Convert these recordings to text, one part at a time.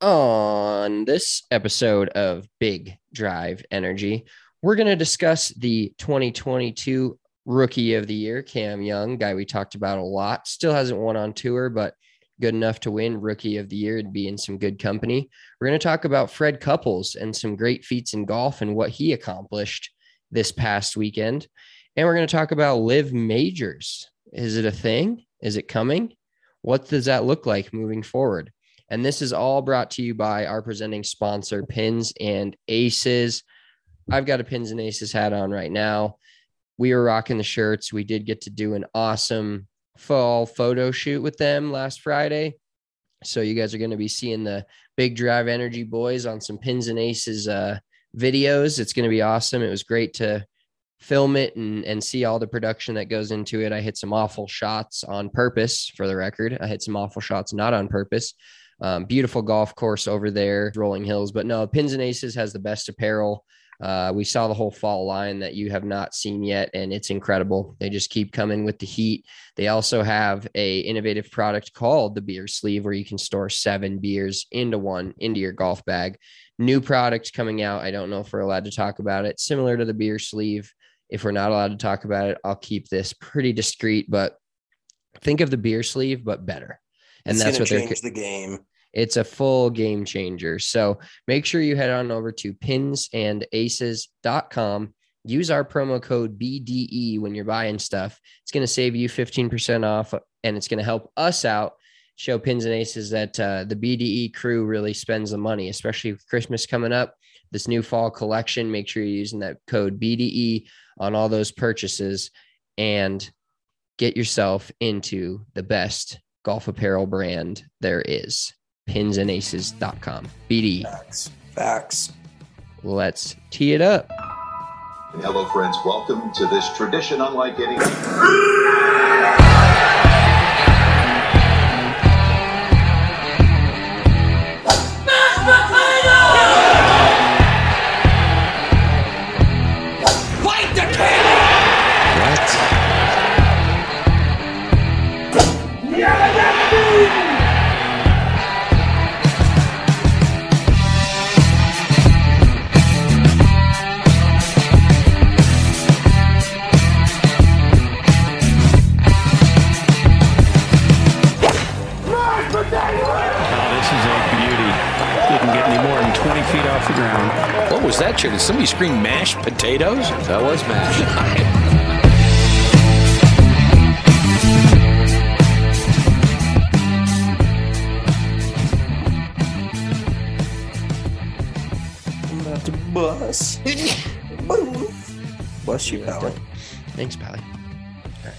On this episode of Big Drive Energy, we're going to discuss the 2022 Rookie of the Year, Cam Young, guy we talked about a lot. Still hasn't won on tour, but good enough to win Rookie of the Year and be in some good company. We're going to talk about Fred Couples and some great feats in golf and what he accomplished this past weekend. And we're going to talk about Live Majors. Is it a thing? Is it coming? What does that look like moving forward? And this is all brought to you by our presenting sponsor, Pins and Aces. I've got a Pins and Aces hat on right now. We were rocking the shirts. We did get to do an awesome fall photo shoot with them last Friday. So you guys are going to be seeing the Big Drive Energy boys on some Pins and Aces videos. It's going to be awesome. It was great to film it and see all the production that goes into it. I hit some awful shots on purpose, for the record. I hit some awful shots not on purpose. Beautiful golf course over there, Rolling Hills. But no, Pins and Aces has the best apparel. We saw the whole fall line that you have not seen yet, and it's incredible. They just keep coming with the heat. They also have a innovative product called the beer sleeve, where you can store 7 beers into your golf bag. New product coming out. I don't know if we're allowed to talk about it. Similar to the beer sleeve. If we're not allowed to talk about it, I'll keep this pretty discreet, but think of the beer sleeve, but better. And that's what they're change the game. It's a full game changer. So make sure you head on over to pinsandaces.com. Use our promo code BDE when you're buying stuff. It's going to save you 15% off, and it's going to help us out. Show Pins and Aces that the BDE crew really spends the money, especially with Christmas coming up. This new fall collection, make sure you're using that code BDE on all those purchases and get yourself into the best golf apparel brand there is. Pinsandaces.com. BD. Facts. Let's tee it up. Hello, friends. Welcome to this tradition unlike any. What was that, Did somebody scream mashed potatoes? That was mashed. I'm about to bust. Boom. Bless you, Pally. Thanks, Pally. Right.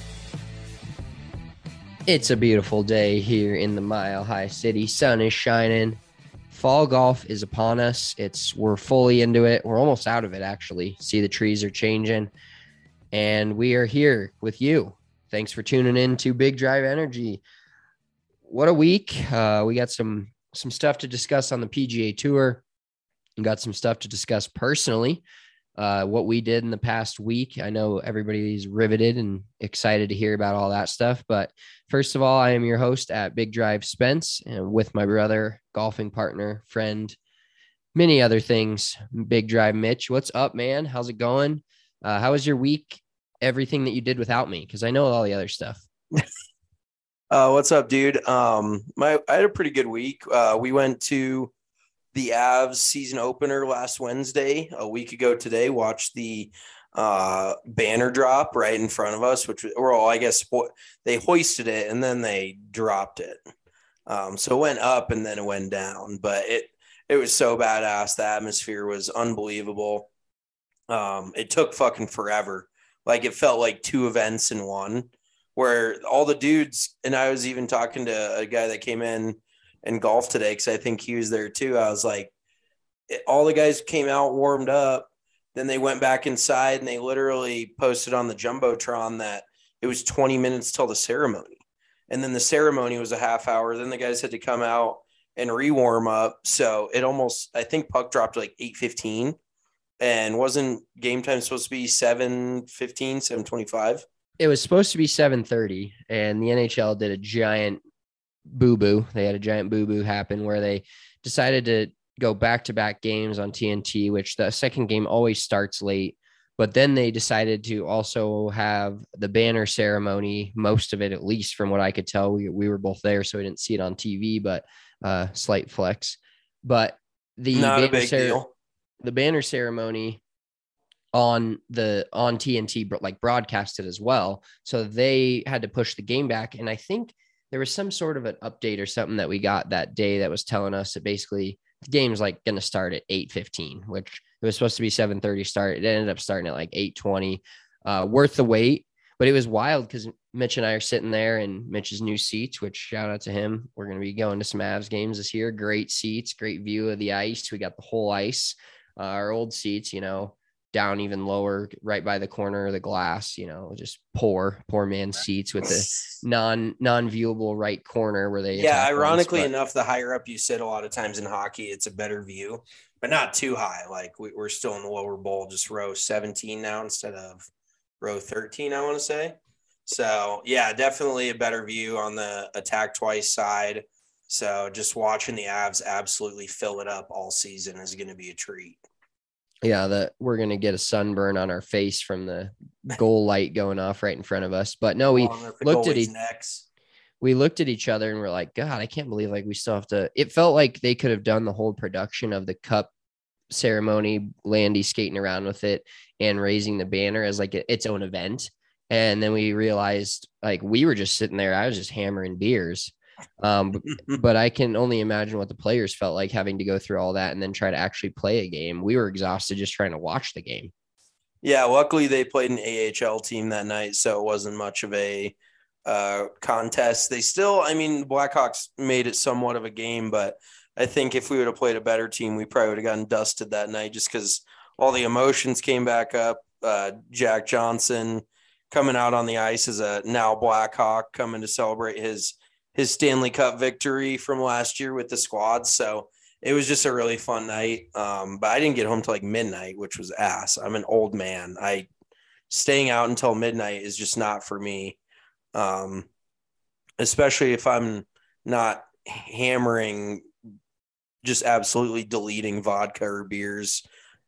It's a beautiful day here in the Mile High City. Sun is shining. Fall golf is upon us. We're fully into it. We're almost out of it, actually. See, the trees are changing, and we are here with you. Thanks for tuning in to Big Drive Energy. What a week. We got some stuff to discuss on the PGA Tour. We got some stuff to discuss personally, what we did in the past week. I know everybody's riveted and excited to hear about all that stuff. But first of all, I am your host at Big Drive Spence, and with my brother, golfing partner, friend, many other things, Big Drive Mitch. What's up, man? How's it going? How was your week? Everything that you did without me, because I know all the other stuff. What's up, dude? I had a pretty good week. We went to the Avs season opener last Wednesday, a week ago today. Watched the banner drop right in front of us, which I guess they hoisted it and then they dropped it. So it went up and then it went down, but it was so badass. The atmosphere was unbelievable. It took fucking forever. Like, it felt like 2 events in one, where all the dudes, and I was even talking to a guy that came in and golfed today, because I think he was there too. I was like, all the guys came out, warmed up, then they went back inside, and they literally posted on the Jumbotron that it was 20 minutes till the ceremony. And then the ceremony was a half hour. Then the guys had to come out and re-warm up. So it almost, I think puck dropped like 8:15, and wasn't game time supposed to be 7:15, 7:25? It was supposed to be 7:30, and the NHL did a giant boo-boo. They had a giant boo-boo happen where they decided to go back-to-back games on TNT, which the second game always starts late. But then they decided to also have the banner ceremony, most of it, at least from what I could tell. We were both there, so we didn't see it on TV, but slight flex. But the Not a big deal. The banner ceremony on TNT, but like broadcasted as well. So they had to push the game back. And I think there was some sort of an update or something that we got that day that was telling us that basically the game's like going to start at 8:15, which it was supposed to be 7:30 start. It ended up starting at like 8:20. Worth the wait, but it was wild because Mitch and I are sitting there in Mitch's new seats, which shout out to him. We're going to be going to some Avs games this year. Great seats, great view of the ice. We got the whole ice. Our old seats, down even lower, right by the corner of the glass, just poor man seats with the non-viewable right corner where they. Yeah, ironically enough, the higher up you sit a lot of times in hockey, it's a better view, but not too high. Like we're still in the lower bowl, just row 17 now instead of row 13, I want to say. So yeah, definitely a better view on the attack twice side. So just watching the Avs absolutely fill it up all season is going to be a treat. Yeah, that we're going to get a sunburn on our face from the goal light going off right in front of us. But no, we looked at each other and we're like, God, I can't believe we still have to. It felt like they could have done the whole production of the cup ceremony, Landy skating around with it and raising the banner as its own event. And then we realized we were just sitting there. I was just hammering beers. But I can only imagine what the players felt like having to go through all that and then try to actually play a game. We were exhausted just trying to watch the game. Yeah, luckily they played an AHL team that night, so it wasn't much of a contest. They still, Blackhawks made it somewhat of a game, but I think if we would have played a better team, we probably would have gotten dusted that night just because all the emotions came back up. Jack Johnson coming out on the ice as a now Blackhawk, coming to celebrate his Stanley Cup victory from last year with the squad. So it was just a really fun night. But I didn't get home till midnight, which was ass. I'm an old man. Staying out until midnight is just not for me. Especially if I'm not hammering, just absolutely deleting vodka or beers.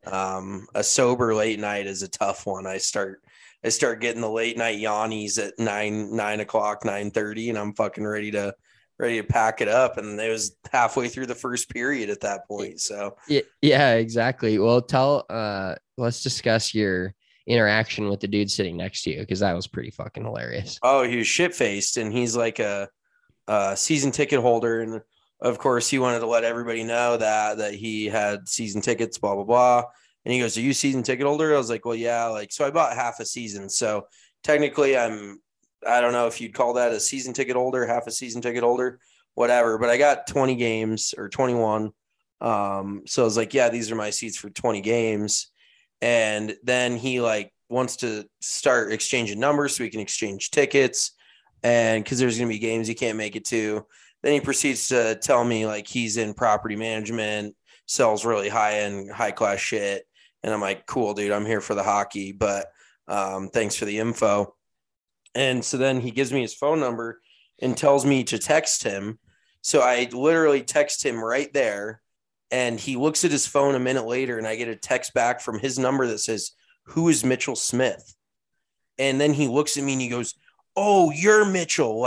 A sober late night is a tough one. I start getting the late night yawnies at 9 o'clock, 9:30, and I'm fucking ready to pack it up. And it was halfway through the first period at that point. So yeah, exactly. Well, let's discuss your interaction with the dude sitting next to you, because that was pretty fucking hilarious. Oh, he was shit faced, and he's like a season ticket holder, and of course he wanted to let everybody know that he had season tickets, blah blah blah. And he goes, "Are you a season ticket holder?" I was like, "Well, yeah." So I bought half a season. So technically I don't know if you'd call that a season ticket holder, half a season ticket holder, whatever. But I got 20 games or 21. So I was like, yeah, these are my seats for 20 games. And then he wants to start exchanging numbers so we can exchange tickets. And because there's going to be games he can't make it to. Then he proceeds to tell me he's in property management, sells really high-end, high-class shit. And I'm like, cool, dude, I'm here for the hockey, but thanks for the info. And so then he gives me his phone number and tells me to text him. So I literally text him right there, and he looks at his phone a minute later, and I get a text back from his number that says, "Who is Mitchell Smith?" And then he looks at me and he goes, "Oh, you're Mitchell."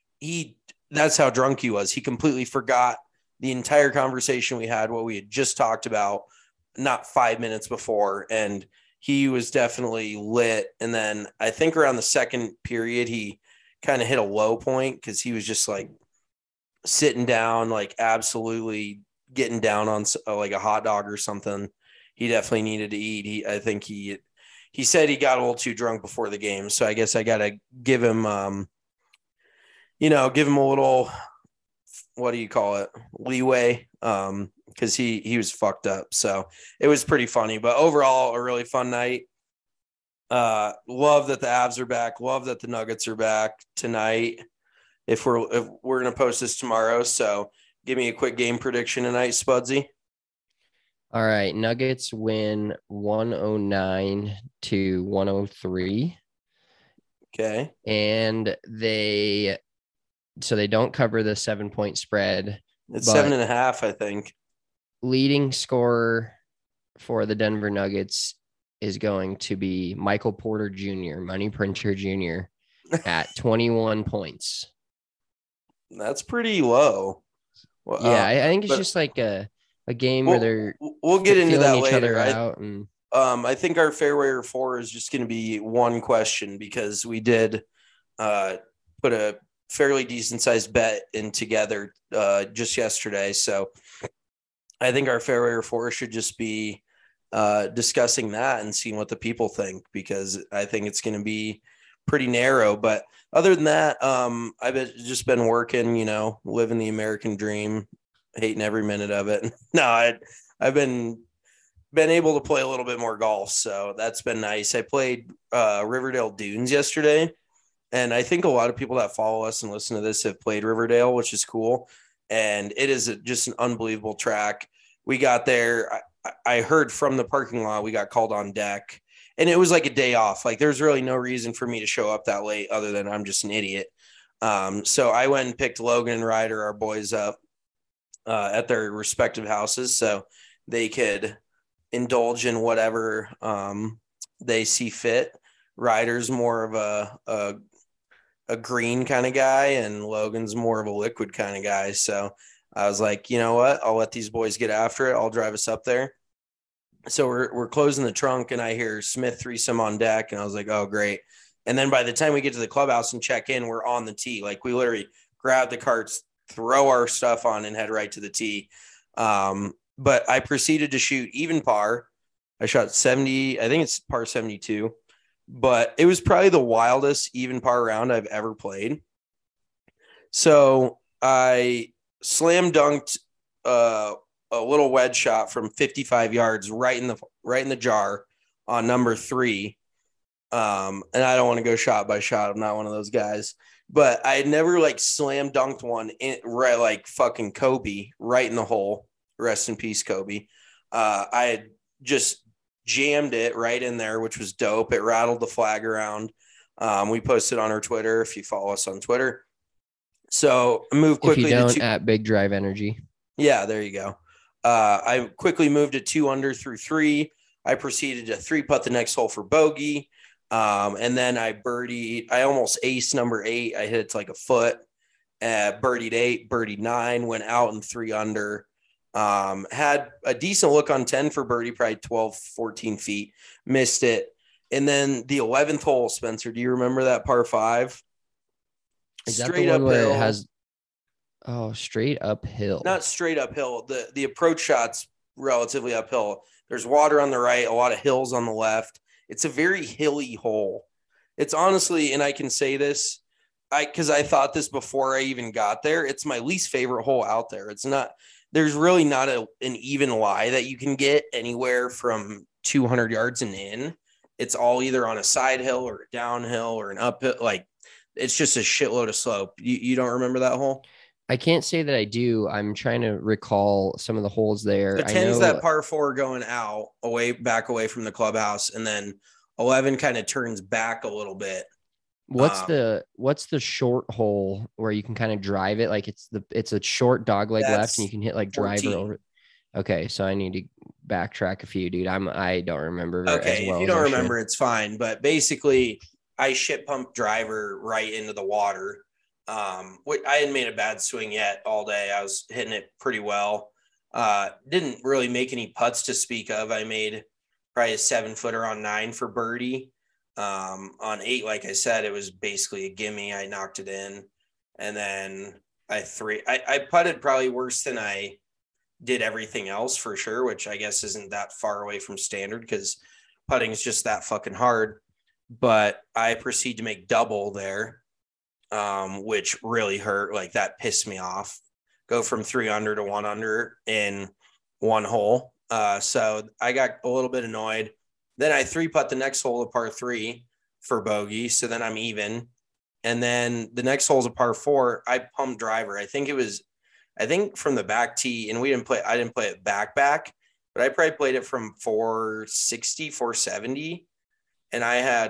That's how drunk he was. He completely forgot the entire conversation we had, what we had just talked about not 5 minutes before. And he was definitely lit. And then I think around the second period, he kind of hit a low point because he was just sitting down, absolutely getting down on a hot dog or something. He definitely needed to eat. I think he said he got a little too drunk before the game. So I guess I got to give him, give him a little, what do you call it? Leeway. Because he was fucked up. So it was pretty funny, but overall a really fun night. Love that the Avs are back. Love that the Nuggets are back tonight. If we're going to post this tomorrow. So give me a quick game prediction tonight, Spudsy. All right. Nuggets win 109-103. Okay. And they don't cover the 7-point spread. It's 7.5, I think. leading scorer for the Denver Nuggets is going to be Michael Porter Jr., Money Printer Jr., at 21 points. That's pretty low. Well, Yeah, I think it's just like a game where we'll get into that each later. Other out and I think our Fairway 4 is just going to be one question because we did put a fairly decent sized bet in together just yesterday. So I think our Fairway 4 should just be discussing that and seeing what the people think, because I think it's going to be pretty narrow. But other than that, I've just been working, living the American dream, hating every minute of it. No, I've been able to play a little bit more golf, so that's been nice. I played Riverdale Dunes yesterday, and I think a lot of people that follow us and listen to this have played Riverdale, which is cool. And it is just an unbelievable track. We got there. I heard from the parking lot we got called on deck, and it was like a day off. Like there's really no reason for me to show up that late other than I'm just an idiot. So I went and picked Logan and Ryder, our boys, up at their respective houses so they could indulge in whatever they see fit. Ryder's more of a green kind of guy, and Logan's more of a liquid kind of guy. So I was like, you know what? I'll let these boys get after it. I'll drive us up there. So we're closing the trunk, and I hear Smith threesome on deck, and I was like, oh, great. And then by the time we get to the clubhouse and check in, we're on the tee. Like we literally grab the carts, throw our stuff on, and head right to the tee. But I proceeded to shoot even par. I shot 70. I think it's par 72. But it was probably the wildest even par round I've ever played. So I slam dunked a little wedge shot from 55 yards right in the jar on number 3. And I don't want to go shot by shot. I'm not one of those guys. But I had never slam dunked one in right like fucking Kobe right in the hole. Rest in peace, Kobe. I had just jammed it right in there, which was dope. It rattled the flag around. We posted on our Twitter if you follow us on Twitter. So I moved quickly. If you don't, at Big Drive Energy. Yeah, there you go. I quickly moved to 2 under through 3. I proceeded to 3-putt the next hole for bogey. And then I birdied. I almost aced number 8. I hit it to like a foot. Birdied 8, birdied 9, went out in 3 under. Had a decent look on 10 for birdie, probably 12, 14 feet. Missed it. And then the 11th hole, Spencer, do you remember that par 5? Is that the one where it has straight uphill? Not straight uphill. The approach shot's relatively uphill. There's water on the right, a lot of hills on the left. It's a very hilly hole. It's honestly, and I can say this, because I thought this before I even got there, it's my least favorite hole out there. It's not, there's really not an even lie that you can get anywhere from 200 yards and in. It's all either on a side hill or a downhill or an uphill. Like it's just a shitload of slope. You don't remember that hole? I can't say that I do. I'm trying to recall some of the holes there. The 10's that par 4 going out back away from the clubhouse, and then 11 kind of turns back a little bit. What's the short hole where you can kind of drive it? Like it's a short dogleg left, and you can hit like 14. driver over. Okay, so I need to backtrack a few, dude. I don't remember. Okay, if you don't remember, it's fine. But basically, I shit pumped driver right into the water. I hadn't made a bad swing yet all day. I was hitting it pretty well. Didn't really make any putts to speak of. I made probably a 7-footer on 9 for birdie. On 8, like I said, it was basically a gimme. I knocked it in, and then I putted probably worse than I did everything else for sure, which I guess isn't that far away from standard because putting is just that fucking hard. But I proceed to make double there. Which really hurt. Like that pissed me off. Go from 3 under to 1 under in 1 hole. So I got a little bit annoyed. Then I 3-putt the next hole, a par 3 for bogey. So then I'm even. And then the next hole is a par 4. I pumped driver. I think from the back tee, and I didn't play it back, but I probably played it from 460, 470. And I had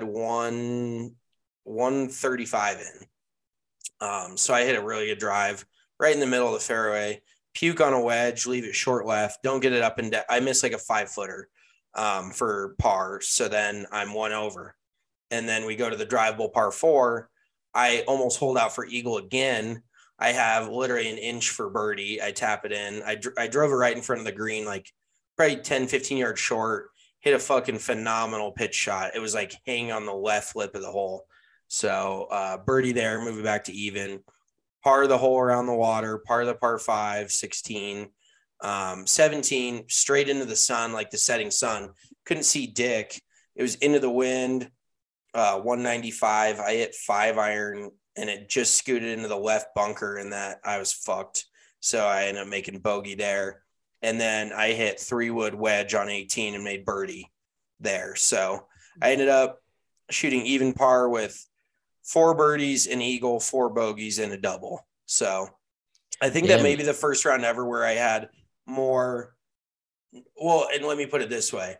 135 in. So I hit a really good drive right in the middle of the fairway, puke on a wedge, leave it short left, don't get it up and down. I miss like a 5-footer for par. So then I'm 1 over. And then we go to the drivable par 4. I almost hold out for eagle again. I have literally an inch for birdie. I tap it in. I drove it right in front of the green, like probably 10, 15 yards short, hit a fucking phenomenal pitch shot. It was like hanging on the left lip of the hole. So birdie there, move it back to even. Par the hole around the water, par the par 5, 16, 17, straight into the sun, like the setting sun. Couldn't see dick. It was into the wind, 195. I hit 5-iron, and it just scooted into the left bunker, and that I was fucked. So I ended up making bogey there. And then I hit 3-wood wedge on 18 and made birdie there. So I ended up shooting even par with 4 birdies, an eagle, 4 bogeys, and a double. So I think that may be the first round ever where I had more. Well, and let me put it this way.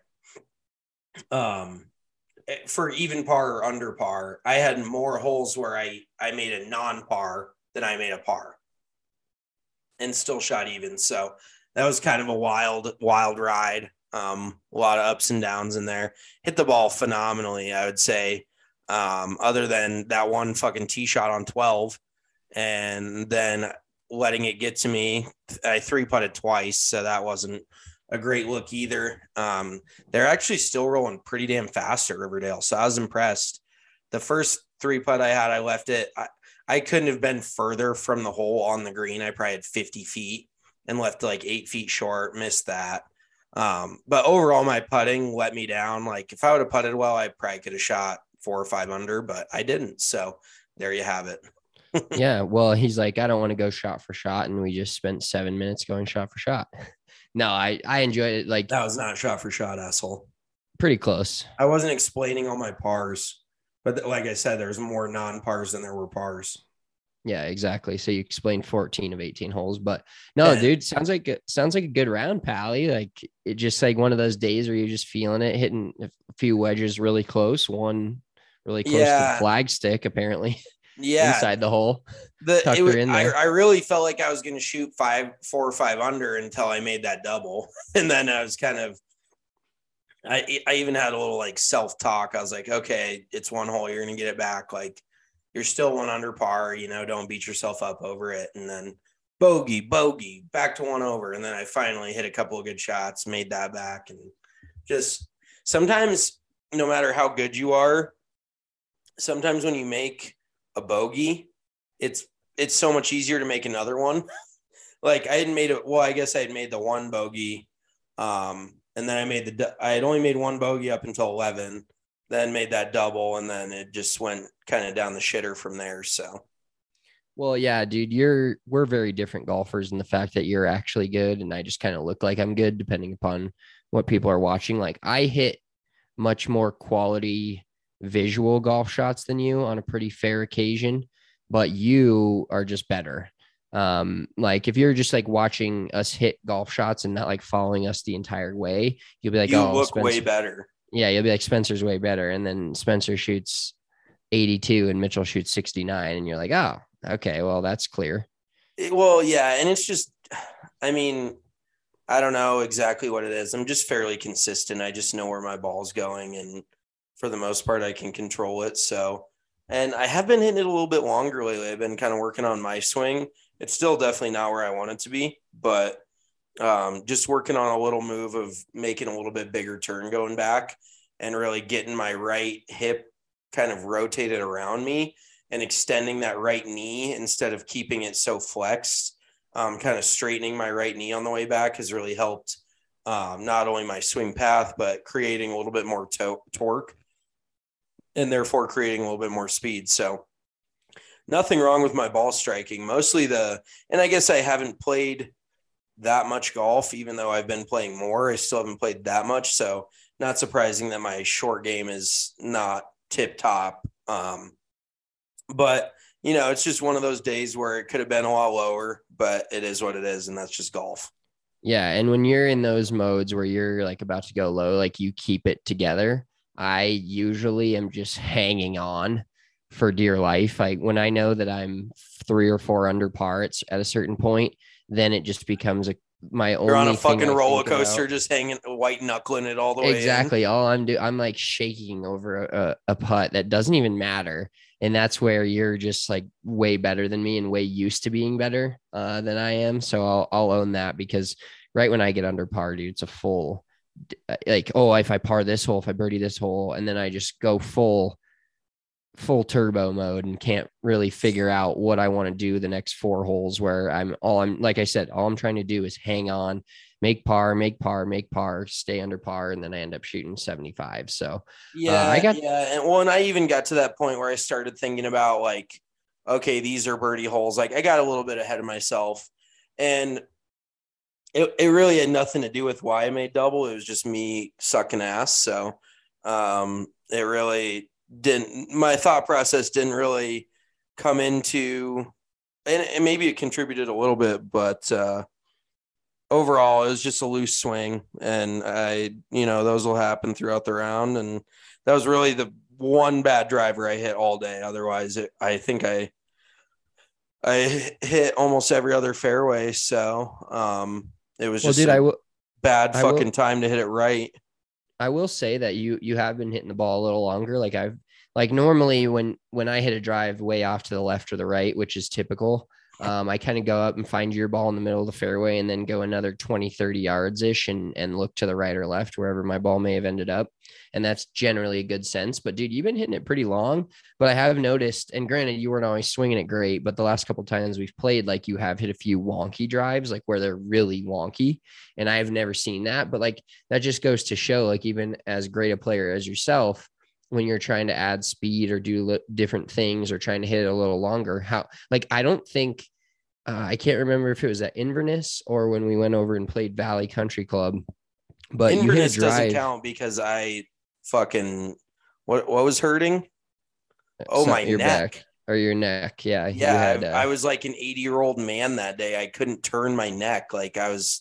For even par or under par, I had more holes where I made a non-par than I made a par and still shot even. So that was kind of a wild ride. A lot of ups and downs in there. Hit the ball phenomenally, I would say. Other than that one fucking tee shot on 12 and then letting it get to me. I 3-putted twice, so that wasn't a great look either. They're actually still rolling pretty damn fast at Riverdale, so I was impressed. The first 3-putt I had, I left it. I couldn't have been further from the hole on the green. I probably had 50 feet and left like 8 feet short, missed that. But overall, my putting let me down. Like if I would have putted well, I probably could have shot 4 or 5 under, but I didn't. So there you have it. Yeah. Well, he's like, I don't want to go shot for shot. And we just spent 7 minutes going shot for shot. No, I enjoyed it. Like that was not shot for shot, asshole. Pretty close. I wasn't explaining all my pars, but like I said, there's more non-pars than there were pars. Yeah, exactly. So you explained 14 of 18 holes, but no, dude, sounds like a good round, Pally. Like it just like one of those days where you're just feeling it, hitting a few wedges really close, one really close to the flag stick, apparently. Yeah, inside the hole. I really felt like I was going to shoot 4 or 5 under until I made that double, and then I was kind of. I even had a little like self-talk. I was like, okay, it's 1 hole, you're going to get it back. Like you're still 1 under par, don't beat yourself up over it. And then bogey, back to 1 over. And then I finally hit a couple of good shots, made that back. And just sometimes, no matter how good you are, sometimes when you make a bogey, it's so much easier to make another one. Like I guess I had made the 1 bogey. And then I had only made 1 bogey up until 11, then made that double. And then it just went kind of down the shitter from there. So. Well, yeah, dude, we're very different golfers in the fact that you're actually good. And I just kind of look like I'm good depending upon what people are watching. Like I hit much more quality visual golf shots than you on a pretty fair occasion, but you are just better. Like if you're just like watching us hit golf shots and not like following us the entire way, you'll be like, you look Spencer, way better. Yeah. You'll be like, Spencer's way better. And then Spencer shoots 82 and Mitchell shoots 69. And you're like, oh, okay, well, that's clear. Well, yeah. And it's just, I mean, I don't know exactly what it is. I'm just fairly consistent. I just know where my ball's going. And for the most part, I can control it. So, and I have been hitting it a little bit longer lately. I've been kind of working on my swing. It's still definitely not where I want it to be, but just working on a little move of making a little bit bigger turn going back and really getting my right hip kind of rotated around me and extending that right knee instead of keeping it so flexed. Kind of straightening my right knee on the way back has really helped not only my swing path, but creating a little bit more torque and therefore creating a little bit more speed. So nothing wrong with my ball striking, mostly and I guess I haven't played that much golf, even though I've been playing more, I still haven't played that much. So not surprising that my short game is not tip top. But it's just one of those days where it could have been a lot lower, but it is what it is. And that's just golf. Yeah. And when you're in those modes where you're like about to go low, like you keep it together. I usually am just hanging on for dear life. Like when I know that I'm 3 or 4 under par, it's at a certain point, then it just becomes my only You're on a thing fucking I roller think about. coaster, just hanging, white knuckling it all the way in. Exactly. All I'm doing, I'm like shaking over a putt that doesn't even matter. And that's where you're just like way better than me and way used to being better than I am. So I'll own that, because right when I get under par, dude, it's a full, like, oh, if I par this hole, if I birdie this hole, and then I just go full turbo mode and can't really figure out what I want to do the next 4 holes, where like I said, all I'm trying to do is hang on, make par, stay under par, and then I end up shooting 75. So And I even got to that point where I started thinking about like, okay, these are birdie holes. Like I got a little bit ahead of myself, and it really had nothing to do with why I made double. It was just me sucking ass. So it really didn't, my thought process didn't really come into, and maybe it contributed a little bit, but overall it was just a loose swing, and those will happen throughout the round. And that was really the one bad driver I hit all day. Otherwise I think I hit almost every other fairway. So it was just bad time to hit it right. I will say that you have been hitting the ball a little longer. Like normally when I hit a drive way off to the left or the right, which is typical, I kind of go up and find your ball in the middle of the fairway and then go another 20, 30 yards ish and look to the right or left, wherever my ball may have ended up. And that's generally a good sense. But dude, you've been hitting it pretty long. But I have noticed, and granted, you weren't always swinging it great, but the last couple of times we've played, like, you have hit a few wonky drives, like where they're really wonky. And I've never seen that. But like, that just goes to show, like, even as great a player as yourself, when you're trying to add speed or do different things or trying to hit it a little longer, I don't think, I can't remember if it was at Inverness or when we went over and played Valley Country Club, but Inverness doesn't count because I fucking, what was hurting? Oh, my your neck. Back or your neck. Yeah. Yeah. I was like an 80-year-old man that day. I couldn't turn my neck. Like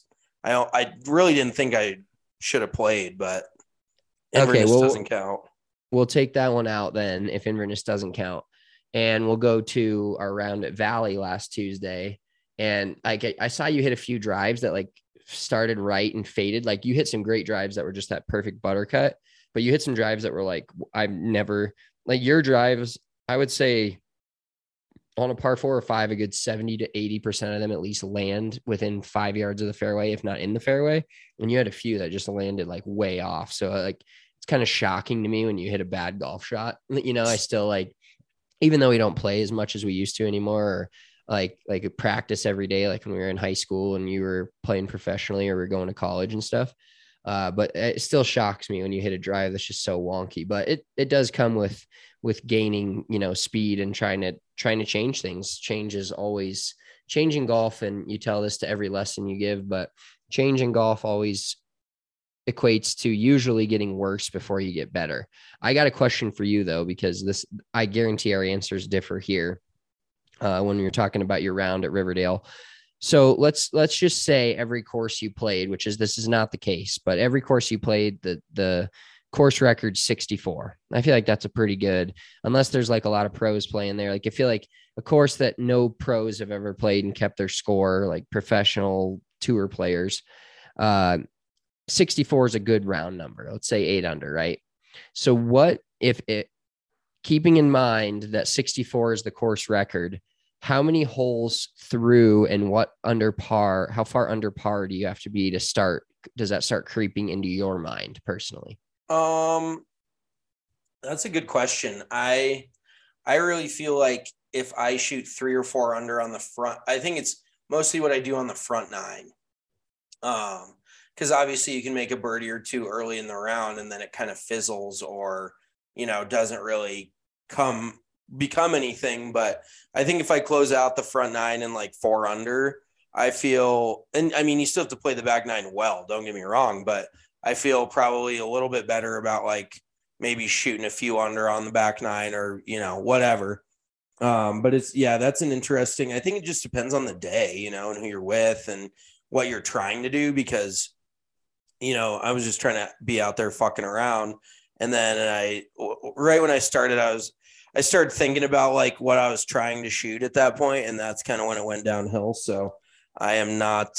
I really didn't think I should have played, but Inverness doesn't count. We'll take that one out then if Inverness doesn't count. And we'll go to our round at Valley last Tuesday. And I saw you hit a few drives that like started right and faded. Like you hit some great drives that were just that perfect buttercut, but you hit some drives that were like, I've never, like your drives, I would say on a par 4 or 5, a good 70 to 80% of them at least land within 5 yards of the fairway, if not in the fairway. And you had a few that just landed like way off. So like, it's kind of shocking to me when you hit a bad golf shot. I still like, even though we don't play as much as we used to anymore, or like practice every day, like when we were in high school and you were playing professionally or we're going to college and stuff. But it still shocks me when you hit a drive that's just so wonky. But it does come with gaining, speed and trying to change things. Change is always changing golf, and you tell this to every lesson you give, but changing golf always equates to usually getting worse before you get better. I got a question for you though, because I guarantee our answers differ here when you're talking about your round at Riverdale. So let's just say every course you played, this is not the case, but every course you played, the course record 64. I feel like that's a pretty good, unless there's like a lot of pros playing there. Like I feel like a course that no pros have ever played and kept their score, like professional tour players, 64 is a good round number. Let's say 8 under, right? So what if keeping in mind that 64 is the course record, how many holes through and how far under par do you have to be to start? Does that start creeping into your mind personally? That's a good question. I really feel like if I shoot 3 or 4 under on the front, I think it's mostly what I do on the front 9. Because obviously you can make a birdie or two early in the round and then it kind of fizzles or, doesn't really become anything. But I think if I close out the front 9 and like 4 under, I feel, and I mean, you still have to play the back 9 well, don't get me wrong, but I feel probably a little bit better about like maybe shooting a few under on the back 9 or, whatever. But that's an interesting, I think it just depends on the day, and who you're with and what you're trying to do, because I was just trying to be out there fucking around. And then right when I started, I started thinking about like what I was trying to shoot at that point. And that's kind of when it went downhill. So I am not,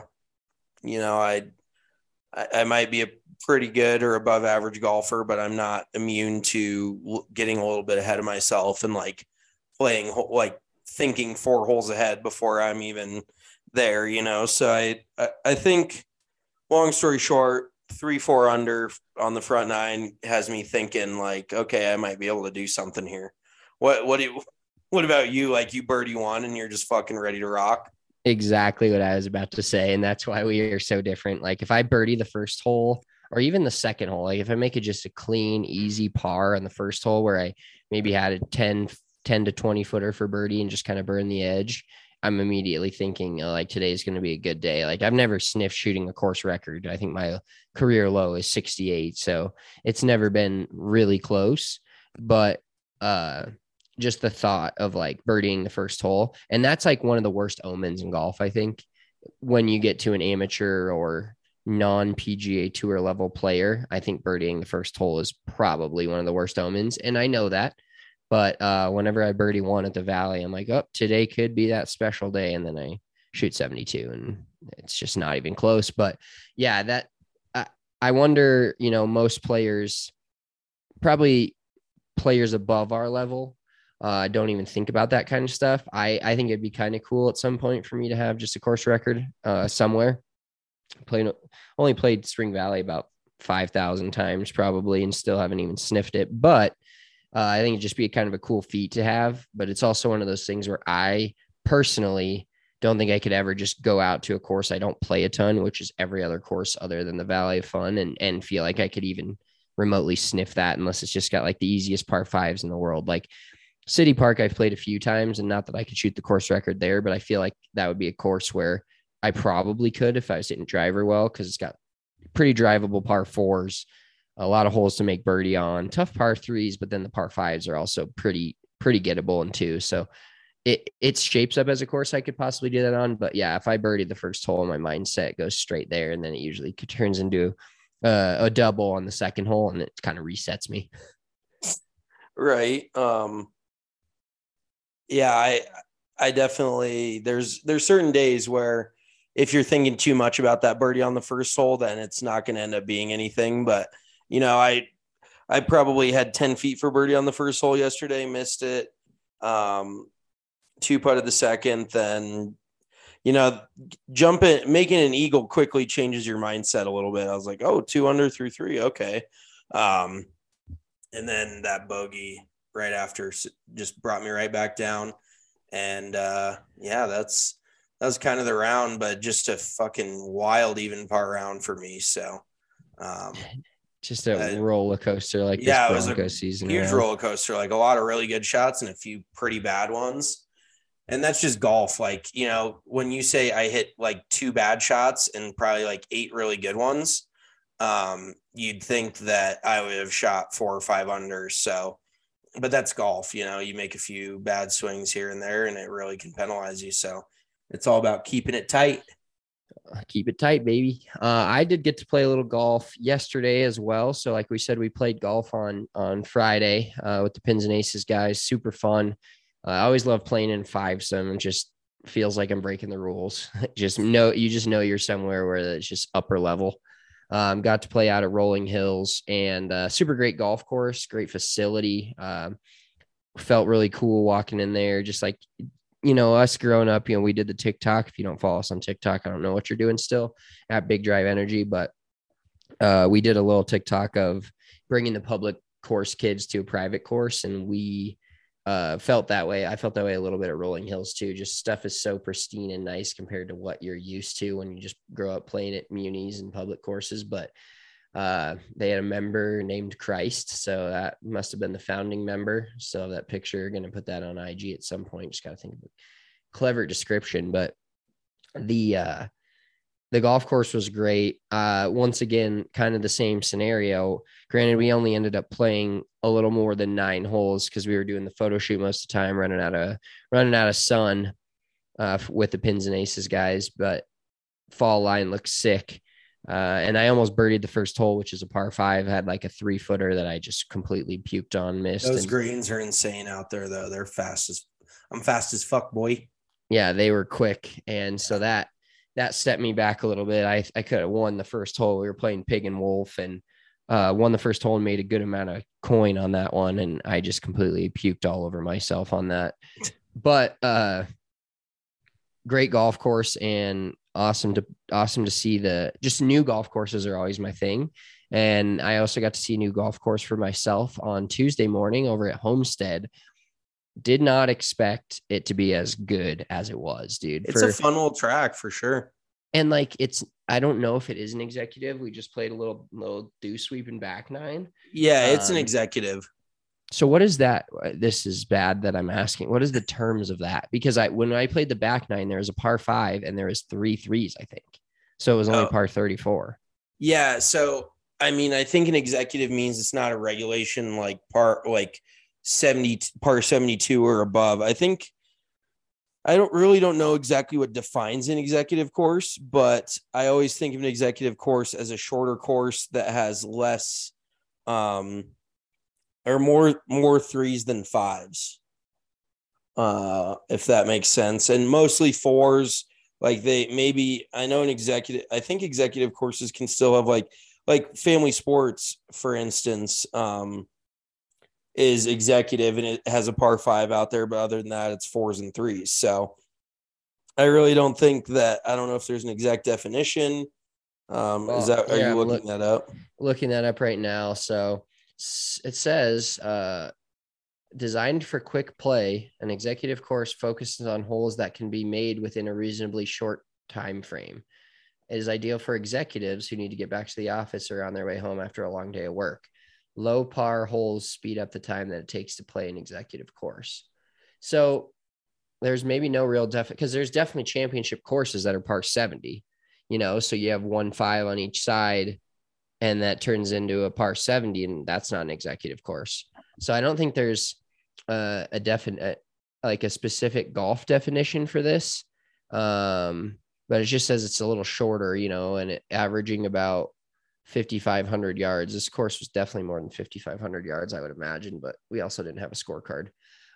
I might be a pretty good or above average golfer, but I'm not immune to getting a little bit ahead of myself and like playing, like thinking 4 holes ahead before I'm even there, So I think, long story short, 3-4 under on the front nine has me thinking like, okay, I might be able to do something here. What about you? Like you birdie one and you're just fucking ready to rock? Exactly what I was about to say. And that's why we are so different. Like if I birdie the first hole or even the second hole, like if I make it just a clean, easy par on the first hole where I maybe had a 10 to 20 footer for birdie and just kind of burn the edge, I'm immediately thinking like today's going to be a good day. Like I've never sniffed shooting a course record. I think my career low is 68. So it's never been really close, but, just the thought of like birdieing the first hole. And that's like one of the worst omens in golf, I think, when you get to an amateur or non PGA Tour level player. I think birdieing the first hole is probably one of the worst omens. And I know that. But whenever I birdie one at the Valley, I'm like, oh, today could be that special day. And then I shoot 72 and it's just not even close. But yeah, that I wonder, most players, probably players above our level, don't even think about that kind of stuff. I think it'd be kind of cool at some point for me to have just a course record somewhere. Only played Spring Valley about 5,000 times probably and still haven't even sniffed it. But I think it'd just be kind of a cool feat to have. But it's also one of those things where I personally don't think I could ever just go out to a course I don't play a ton, which is every other course other than the Valley of Fun, and feel like I could even remotely sniff that unless it's just got like the easiest par fives in the world. Like City Park, I've played a few times, and not that I could shoot the course record there, but I feel like that would be a course where I probably could if I was hitting driver well, because it's got pretty drivable par fours, a lot of holes to make birdie on, tough par threes, but then the par fives are also pretty gettable in two. So it shapes up as a course I could possibly do that on. But yeah, if I birdie the first hole, my mindset goes straight there, and then it usually turns into a double on the second hole, and it kind of resets me. Right. Yeah, I definitely there's certain days where if you're thinking too much about that birdie on the first hole, then it's not going to end up being anything. But I probably had 10 feet for birdie on the first hole yesterday, missed it. 2-putted the second, then making an eagle quickly changes your mindset a little bit. I was like, oh, 2 under through 3, okay. And then that bogey right after just brought me right back down. And yeah, that was kind of the round, but just a fucking wild even par round for me. So just a roller coaster like yeah, this Bronco season. Huge around. roller coaster, like a lot of really good shots and a few pretty bad ones. And that's just golf. Like, when you say I hit like 2 bad shots and probably like 8 really good ones, you'd think that I would have shot 4 or 5 under. So, but that's golf, you make a few bad swings here and there and it really can penalize you. So it's all about keeping it tight. Keep it tight, baby. I did get to play a little golf yesterday as well. So like we said, we played golf on Friday with the Pins and Aces guys. Super fun. I always love playing in fivesome. It just feels like I'm breaking the rules. You just know you're somewhere where it's just upper level. Got to play out at Rolling Hills and super great golf course, great facility. Felt really cool walking in there. Just like, us growing up, we did the TikTok. If you don't follow us on TikTok, I don't know what you're doing still at Big Drive Energy, but we did a little TikTok of bringing the public course kids to a private course. And we felt that way. I felt that way a little bit at Rolling Hills too. Just stuff is so pristine and nice compared to what you're used to when you just grow up playing at munis and public courses. But they had a member named Christ, so that must have been the founding member. So that picture, going to put that on IG at some point. Just got to think of a clever description. But the golf course was great. Once again, kind of the same scenario. Granted, we only ended up playing a little more than 9 holes because we were doing the photo shoot most of the time, running out of sun with the Pins and Aces guys. But fall line looked sick. And I almost birdied the first hole, which is a par 5. Had like a 3-footer that I just completely puked on, missed. Those greens are insane out there, though. They're I'm fast as fuck, boy. Yeah, they were quick. And so that set me back a little bit. I could have won the first hole. We were playing pig and wolf, and won the first hole and made a good amount of coin on that one. And I just completely puked all over myself on that. But great golf course, and awesome to see just new golf courses are always my thing. And I also got to see a new golf course for myself on Tuesday morning over at Homestead. Did not expect it to be as good as it was, dude. It's a fun little track for sure. And like, I don't know if it is an executive. We just played a little do sweep and back nine. Yeah, it's an executive. So what is that? This is bad that I'm asking. What is the terms of that? Because when I played the back nine, there was a par 5 and there was 3 threes, I think. So it was only par 34. Yeah. So, I mean, I think an executive means it's not a regulation like par 72 or above. I don't know exactly what defines an executive course, but I always think of an executive course as a shorter course that has less, or more threes than fives, if that makes sense. And mostly fours. Like I think executive courses can still have like family sports, for instance, is executive and it has a par 5 out there, but other than that, it's 4s and 3s. So I really don't think that, I don't know if there's an exact definition. Are you looking that up? Looking that up right now. So it says, designed for quick play, an executive course focuses on holes that can be made within a reasonably short time frame. It is ideal for executives who need to get back to the office or on their way home after a long day of work. Low par holes speed up the time that it takes to play an executive course. So there's maybe no real because there's definitely championship courses that are par 70, so you have 1-5 on each side, and that turns into a par 70, and that's not an executive course. So I don't think there's a definite, like a specific golf definition for this. But it just says it's a little shorter, and it averaging about 5,500 yards. This course was definitely more than 5,500 yards, I would imagine, but we also didn't have a scorecard.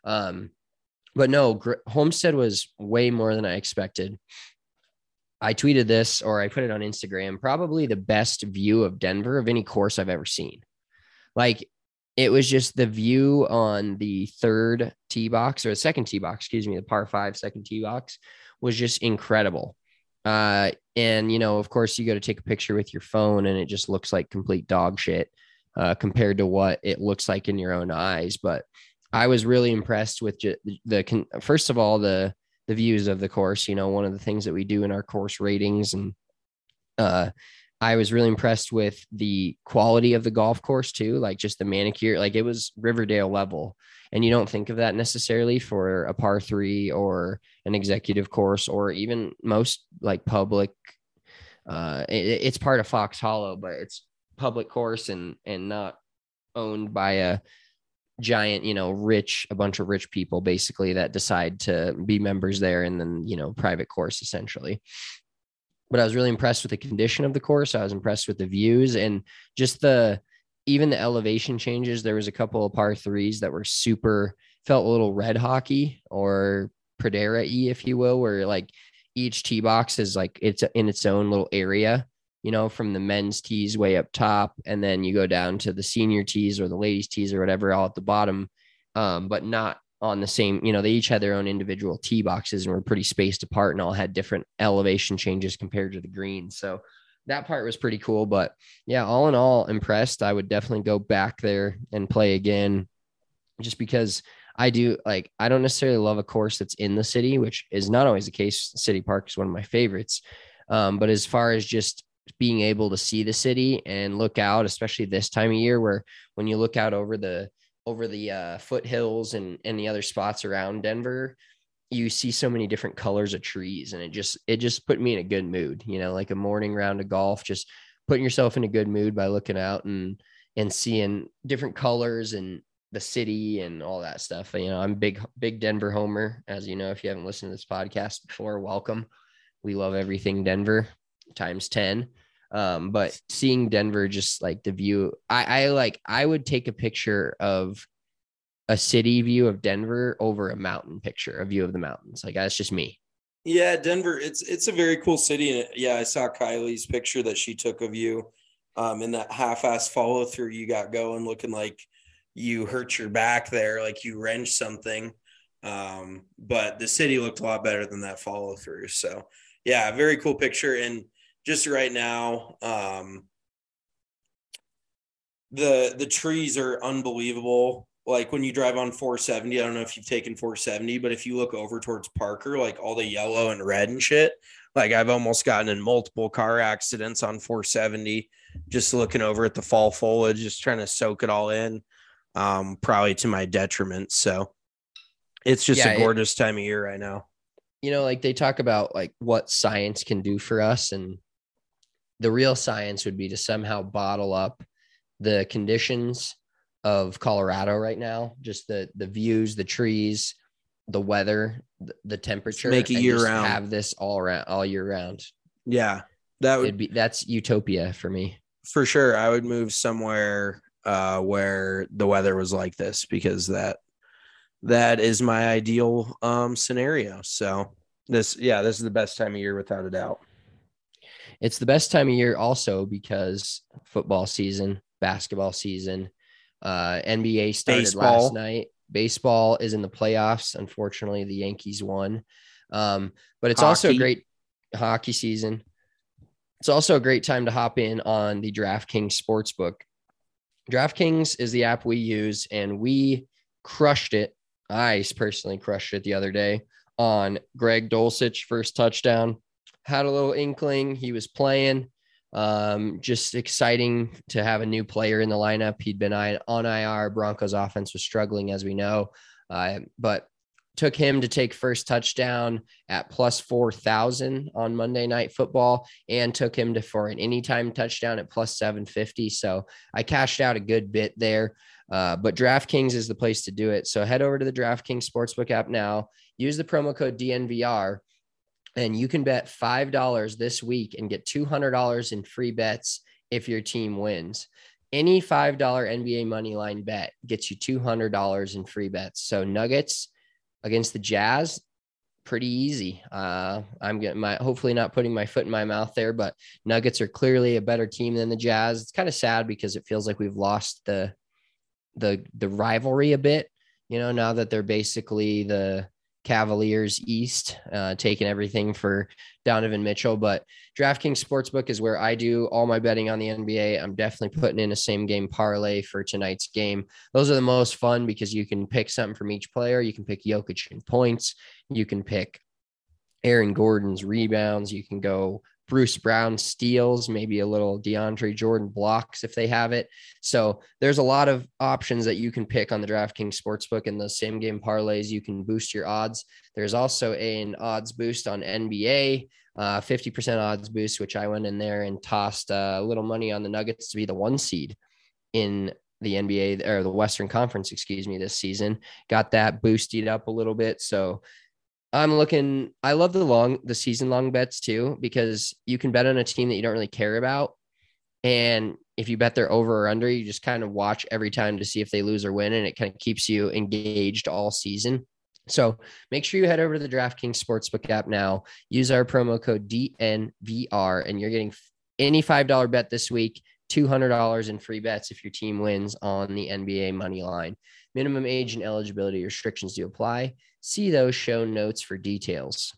But no, Homestead was way more than I expected. I tweeted this, or I put it on Instagram, probably the best view of Denver of any course I've ever seen. Like, it was just the view on the third tee box, or the second tee box, the par 5 second tee box was just incredible. And, of course, you go to take a picture with your phone and it just looks like complete dog shit compared to what it looks like in your own eyes. But I was really impressed with first of all, the views of the course, one of the things that we do in our course ratings. And I was really impressed with the quality of the golf course too, like just the manicure, like it was Riverdale level. And you don't think of that necessarily for a par 3 or an executive course, or even most like public. It's part of Fox Hollow, but it's public course and not owned by a giant, a bunch of rich people basically that decide to be members there, and then, private course essentially. But I was really impressed with the condition of the course. I was impressed with the views and just even the elevation changes. There was a couple of par 3s that were felt a little red hockey or Pradera-y, if you will, where like each tee box is like, it's in its own little area, from the men's tees way up top. And then you go down to the senior tees or the ladies tees or whatever, all at the bottom. But not on the same, they each had their own individual tee boxes and were pretty spaced apart and all had different elevation changes compared to the green. So that part was pretty cool. But yeah, all in all, impressed. I would definitely go back there and play again, just because I don't necessarily love a course that's in the city, which is not always the case. City Park is one of my favorites. But as far as just being able to see the city and look out, especially this time of year, where when you look out over the foothills and the other spots around Denver, you see so many different colors of trees, and it just put me in a good mood, like a morning round of golf, just putting yourself in a good mood by looking out and seeing different colors and the city and all that stuff. I'm big Denver homer, as you know. If you haven't listened to this podcast before, welcome. We love everything Denver times 10. But seeing Denver, just like the view, I would take a picture of a city view of Denver over a mountain picture, a view of the mountains. Like, that's just me. Yeah, Denver, it's a very cool city. And yeah, I saw Kylie's picture that she took of you in that half-ass follow through you got going, looking like you hurt your back there, like you wrenched something. But the city looked a lot better than that follow through. So yeah, very cool picture. And just right now, the trees are unbelievable. Like when you drive on 470, I don't know if you've taken 470, but if you look over towards Parker, like all the yellow and red and shit, like I've almost gotten in multiple car accidents on 470, just looking over at the fall foliage, just trying to soak it all in, probably to my detriment. So it's just a gorgeous time of year right now. Like they talk about like what science can do for us, and the real science would be to somehow bottle up the conditions of Colorado right now, just the views, the trees, the weather, the temperature, make it year round. Have this all year round. Yeah, that's utopia for me. For sure. I would move somewhere where the weather was like this, because that is my ideal scenario. So this is the best time of year without a doubt. It's the best time of year also because football season, basketball season, NBA started last night. Baseball is in the playoffs. Unfortunately, the Yankees won. But it's also a great hockey season. It's also a great time to hop in on the DraftKings Sportsbook. DraftKings is the app we use, and we crushed it. I personally crushed it the other day on Greg Dulcich, first touchdown. Had a little inkling he was playing. Just exciting to have a new player in the lineup. He'd been on IR. Broncos offense was struggling, as we know, but took him to take first touchdown at plus 4,000 on Monday Night Football, and took him for an anytime touchdown at plus 750. So I cashed out a good bit there. But DraftKings is the place to do it. So head over to the DraftKings Sportsbook app now. Use the promo code DNVR. And you can bet $5 this week and get $200 in free bets if your team wins. Any $5 NBA money line bet gets you $200 in free bets. So Nuggets against the Jazz, pretty easy. I'm getting hopefully not putting my foot in my mouth there, but Nuggets are clearly a better team than the Jazz. It's kind of sad because it feels like we've lost the rivalry a bit, now that they're basically the Cavaliers East, taking everything for Donovan Mitchell. But DraftKings Sportsbook is where I do all my betting on the NBA. I'm definitely putting in a same game parlay for tonight's game. Those are the most fun because you can pick something from each player. You can pick Jokic in points. You can pick Aaron Gordon's rebounds. You can go Bruce Brown steals, maybe a little DeAndre Jordan blocks if they have it. So there's a lot of options that you can pick on the DraftKings Sportsbook, and the same game parlays. You can boost your odds. There's also an odds boost on NBA, 50% odds boost, which I went in there and tossed a little money on the Nuggets to be the 1 seed in the NBA, or the Western Conference, this season. Got that boosted up a little bit. So I love the season long bets too, because you can bet on a team that you don't really care about. And if you bet their over or under, you just kind of watch every time to see if they lose or win. And it kind of keeps you engaged all season. So make sure you head over to the DraftKings Sportsbook app now, use our promo code DNVR, and you're getting any $5 bet this week, $200 in free bets if your team wins on the NBA money line. Minimum age and eligibility restrictions do apply. See those show notes for details.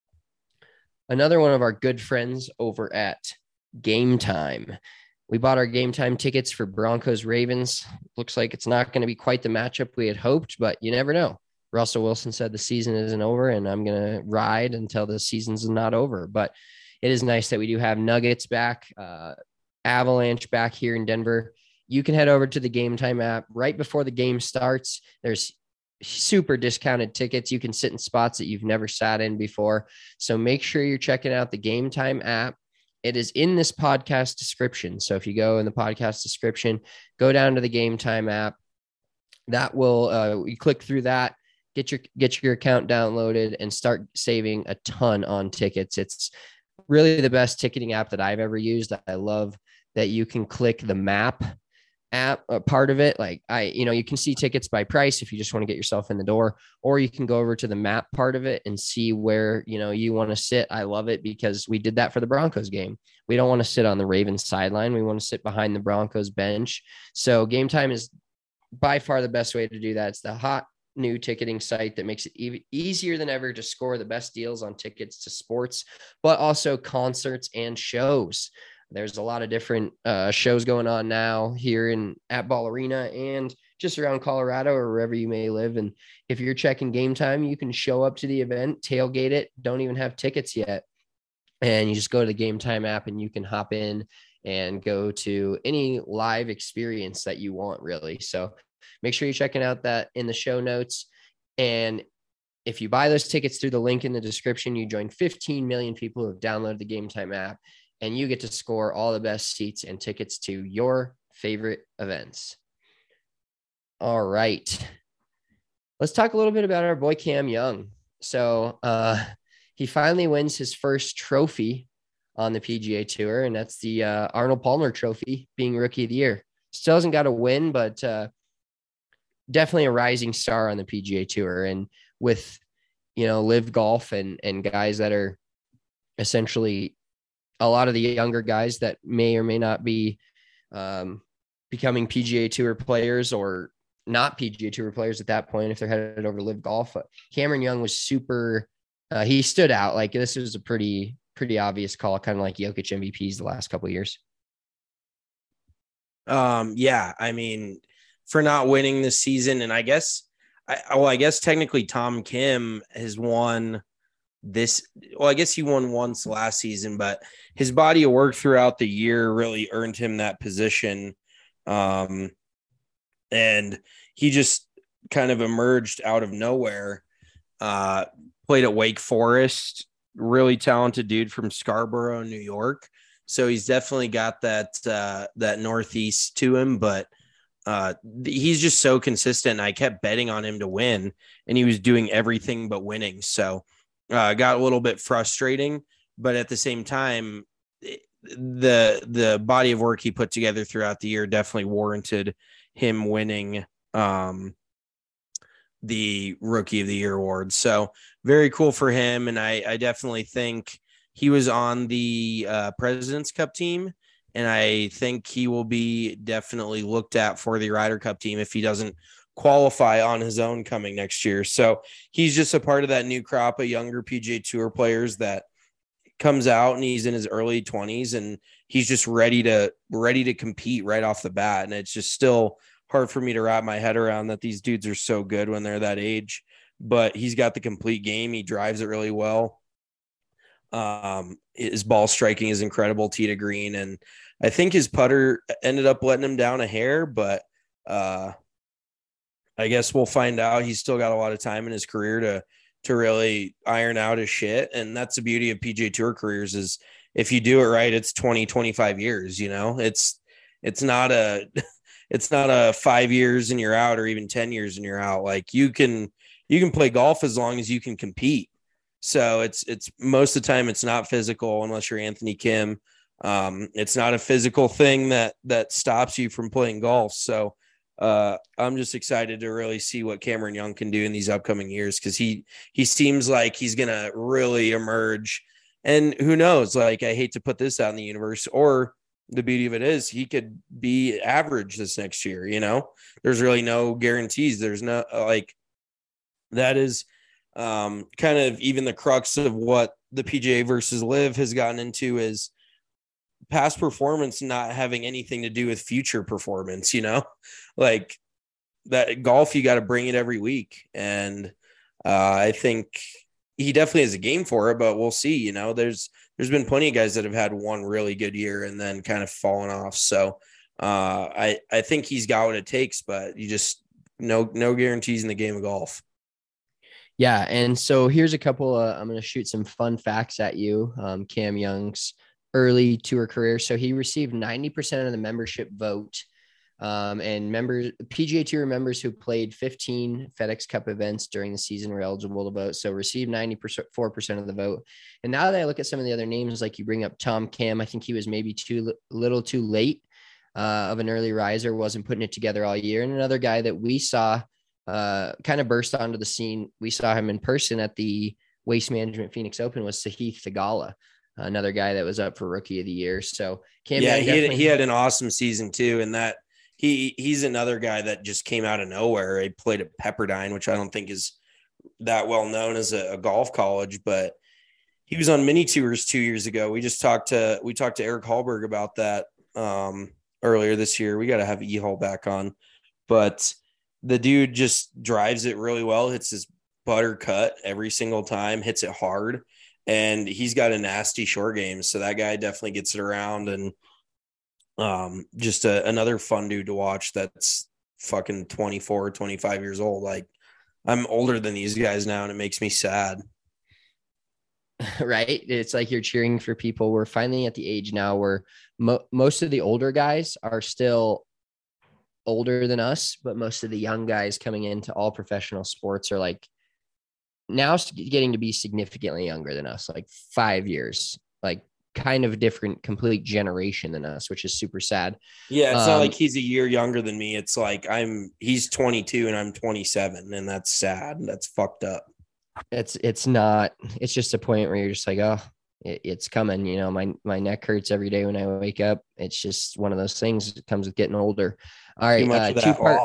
Another one of our good friends over at Game Time. We bought our Game Time tickets for Broncos Ravens. Looks like it's not going to be quite the matchup we had hoped, but you never know. Russell Wilson said the season isn't over, and I'm going to ride until the season's not over. But it is nice that we do have Nuggets back, Avalanche back here in Denver. You can head over to the Game Time app right before the game starts. There's super discounted tickets. You can sit in spots that you've never sat in before. So make sure you're checking out the Game Time app. It is in this podcast description. So if you go in the podcast description, go down to the Game Time app. That will, you click through that, get your account downloaded, and start saving a ton on tickets. It's really the best ticketing app that I've ever used. I love that you can click the map app, a part of it. Like you can see tickets by price if you just want to get yourself in the door, or you can go over to the map part of it and see where, you want to sit. I love it because we did that for the Broncos game. We don't want to sit on the Ravens sideline. We want to sit behind the Broncos bench. So Game Time is by far the best way to do that. It's the hot new ticketing site that makes it easier than ever to score the best deals on tickets to sports, but also concerts and shows. There's a lot of different shows going on now here at Ball Arena and just around Colorado or wherever you may live. And if you're checking Game Time, you can show up to the event, tailgate it, don't even have tickets yet. And you just go to the Game Time app and you can hop in and go to any live experience that you want, really. So make sure you're checking out that in the show notes. And if you buy those tickets through the link in the description, you join 15 million people who have downloaded the Game Time app, and you get to score all the best seats and tickets to your favorite events. All right. Let's talk a little bit about our boy Cam Young. So he finally wins his first trophy on the PGA Tour, and that's the Arnold Palmer Trophy, being Rookie of the Year. Still hasn't got a win, but definitely a rising star on the PGA Tour. And with, Live Golf and guys that are essentially a lot of the younger guys that may or may not be becoming PGA Tour players or not PGA Tour players at that point if they're headed over to Live Golf. Cameron Young was super he stood out. Like, this was a pretty obvious call, kind of like Jokic MVPs the last couple of years. Yeah, I mean, for not winning this season, and I guess technically Tom Kim has won this. Well, I guess he won once last season, but his body of work throughout the year really earned him that position. And he just kind of emerged out of nowhere. Played at Wake Forest, really talented dude from Scarborough, New York. So he's definitely got that Northeast to him, but he's just so consistent. I kept betting on him to win, and he was doing everything but winning. So got a little bit frustrating, but at the same time, the body of work he put together throughout the year definitely warranted him winning the Rookie of the Year award. So very cool for him. And I definitely think he was on the President's Cup team, and I think he will be definitely looked at for the Ryder Cup team if he doesn't qualify on his own coming next year. So he's just a part of that new crop of younger PGA Tour players that comes out, and he's in his early 20s, and he's just ready to compete right off the bat. And it's just still hard for me to wrap my head around that these dudes are so good when they're that age, but he's got the complete game. He drives it really well. His ball striking is incredible, tee to green. And I think his putter ended up letting him down a hair, but I guess we'll find out. He's still got a lot of time in his career to really iron out his shit. And that's the beauty of PGA Tour careers, is if you do it right, it's 20, 25 years, it's not a 5 years and you're out, or even 10 years and you're out. Like, you can play golf as long as you can compete. So it's most of the time it's not physical unless you're Anthony Kim. It's not a physical thing that stops you from playing golf. So I'm just excited to really see what Cameron Young can do in these upcoming years, because he seems like he's going to really emerge. And who knows, like, I hate to put this out in the universe, or the beauty of it is he could be average this next year. There's really no guarantees. There's no, like, that is kind of even the crux of what the PGA versus Live has gotten into, is past performance not having anything to do with future performance. Like, that golf, you got to bring it every week. And I think he definitely has a game for it, but we'll see. There's been plenty of guys that have had one really good year and then kind of fallen off. So I think he's got what it takes, but you just no guarantees in the game of golf. Yeah. And so here's a couple, I'm going to shoot some fun facts at you. Cam Young's early tour career. So he received 90% of the membership vote. And PGA Tour members who played 15 FedEx Cup events during the season were eligible to vote. So received 94% of the vote. And now that I look at some of the other names, like you bring up Tom Kim, I think he was maybe too little too late. of an early riser, wasn't putting it together all year. And another guy that we saw kind of burst onto the scene, we saw him in person at the Waste Management Phoenix Open, was Sahith Theegala, another guy that was up for Rookie of the Year. So he had an awesome season too, and that he's another guy that just came out of nowhere. He played at Pepperdine, which I don't think is that well known as a golf college, but he was on mini tours 2 years ago. We talked to Eric Hallberg about that earlier this year. We got to have E-Hall back on, but the dude just drives it really well, hits his butter cut every single time, hits it hard, and he's got a nasty short game. So that guy definitely gets it around, and just another fun dude to watch that's fucking 24, 25 years old. Like, I'm older than these guys now, and it makes me sad. Right. It's like you're cheering for people. We're finally at the age now where most of the older guys are still older than us, but most of the young guys coming into all professional sports are like now getting to be significantly younger than us, like 5 years, like kind of a different, complete generation than us, which is super sad. Yeah, it's not like he's a year younger than me. It's like he's 22 and I'm 27, and that's sad. That's fucked up. It's just a point where you're just like, oh, it's coming. You know, my neck hurts every day when I wake up. It's just one of those things that comes with getting older. All right,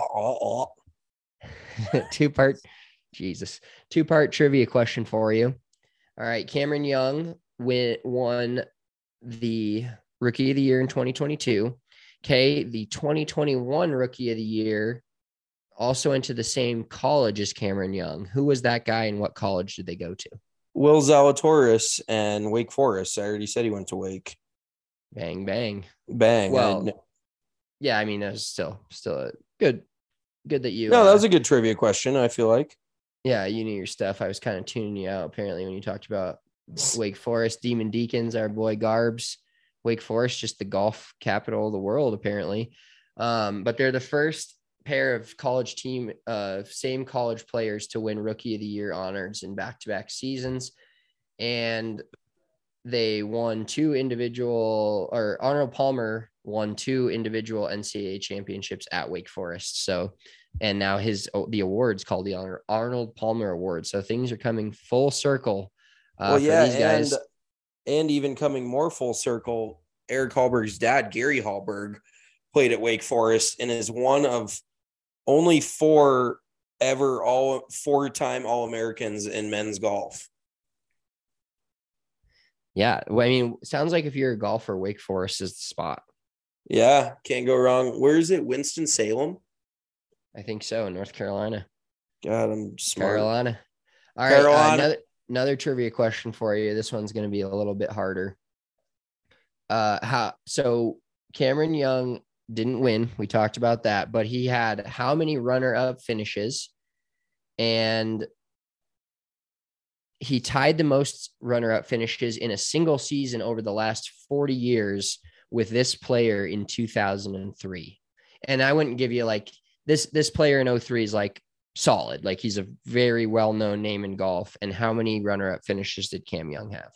two-part trivia question for you. All right, Cameron Young won the Rookie of the Year in 2022. Okay, the 2021 Rookie of the Year also went to the same college as Cameron Young. Who was that guy, and what college did they go to? Will Zalatoris and Wake Forest. I already said he went to Wake. Bang, bang. Bang. Well, yeah, I mean, that was still a good that you. No, that was a good trivia question, I feel like. Yeah, you knew your stuff. I was kind of tuning you out, apparently, when you talked about Wake Forest, Demon Deacons, our boy Garbs. Wake Forest, just the golf capital of the world, apparently. But they're the first pair of same college players to win Rookie of the Year honors in back-to-back seasons. And they won Arnold Palmer won 2 individual NCAA championships at Wake Forest. So, and now the award's called the Arnold Palmer Award. So things are coming full circle for these guys. And even coming more full circle, Eric Hallberg's dad, Gary Hallberg, played at Wake Forest and is one of only 4 four-time All-Americans in men's golf. Yeah. Well, I mean, sounds like if you're a golfer, Wake Forest is the spot. Yeah. Can't go wrong. Where is it? Winston-Salem? I think so. North Carolina. God, I'm smart. Carolina. All right. Another trivia question for you. This one's going to be a little bit harder. So Cameron Young didn't win. We talked about that, but he had how many runner-up finishes? And he tied the most runner-up finishes in a single season over the last 40 years with this player in 2003. And I wouldn't give you like this player in 03 is like solid. Like he's a very well-known name in golf. And how many runner-up finishes did Cam Young have?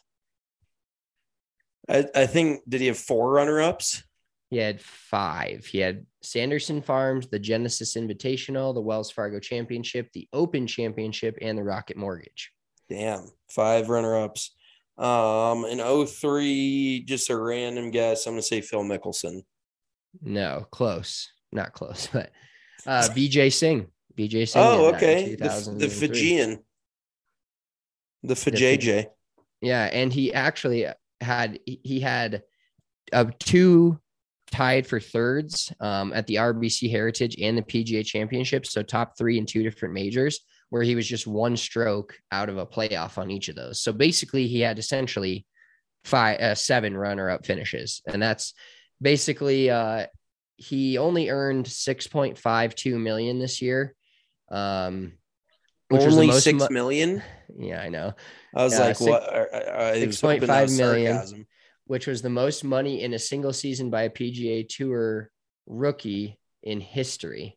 I think, did he have 4 runner-ups? He had 5. He had Sanderson Farms, the Genesis Invitational, the Wells Fargo Championship, the Open Championship, and the Rocket Mortgage. Damn, 5 runner-ups. In 03, just a random guess, I'm going to say Phil Mickelson. No, close. Not close, but Vijay Singh. Oh, okay. The Fijian. The Fijay. Yeah, and he actually had 2 tied for thirds at the RBC Heritage and the PGA Championship. So top 3 in 2 different majors, where he was just 1 stroke out of a playoff on each of those. So basically he had essentially 7 runner-up finishes. And that's basically he only earned $6.52 million this year. Which only was $6 million? Yeah, I know. I was like, what? 6.5 million. Sarcasm. Which was the most money in a single season by a PGA Tour rookie in history.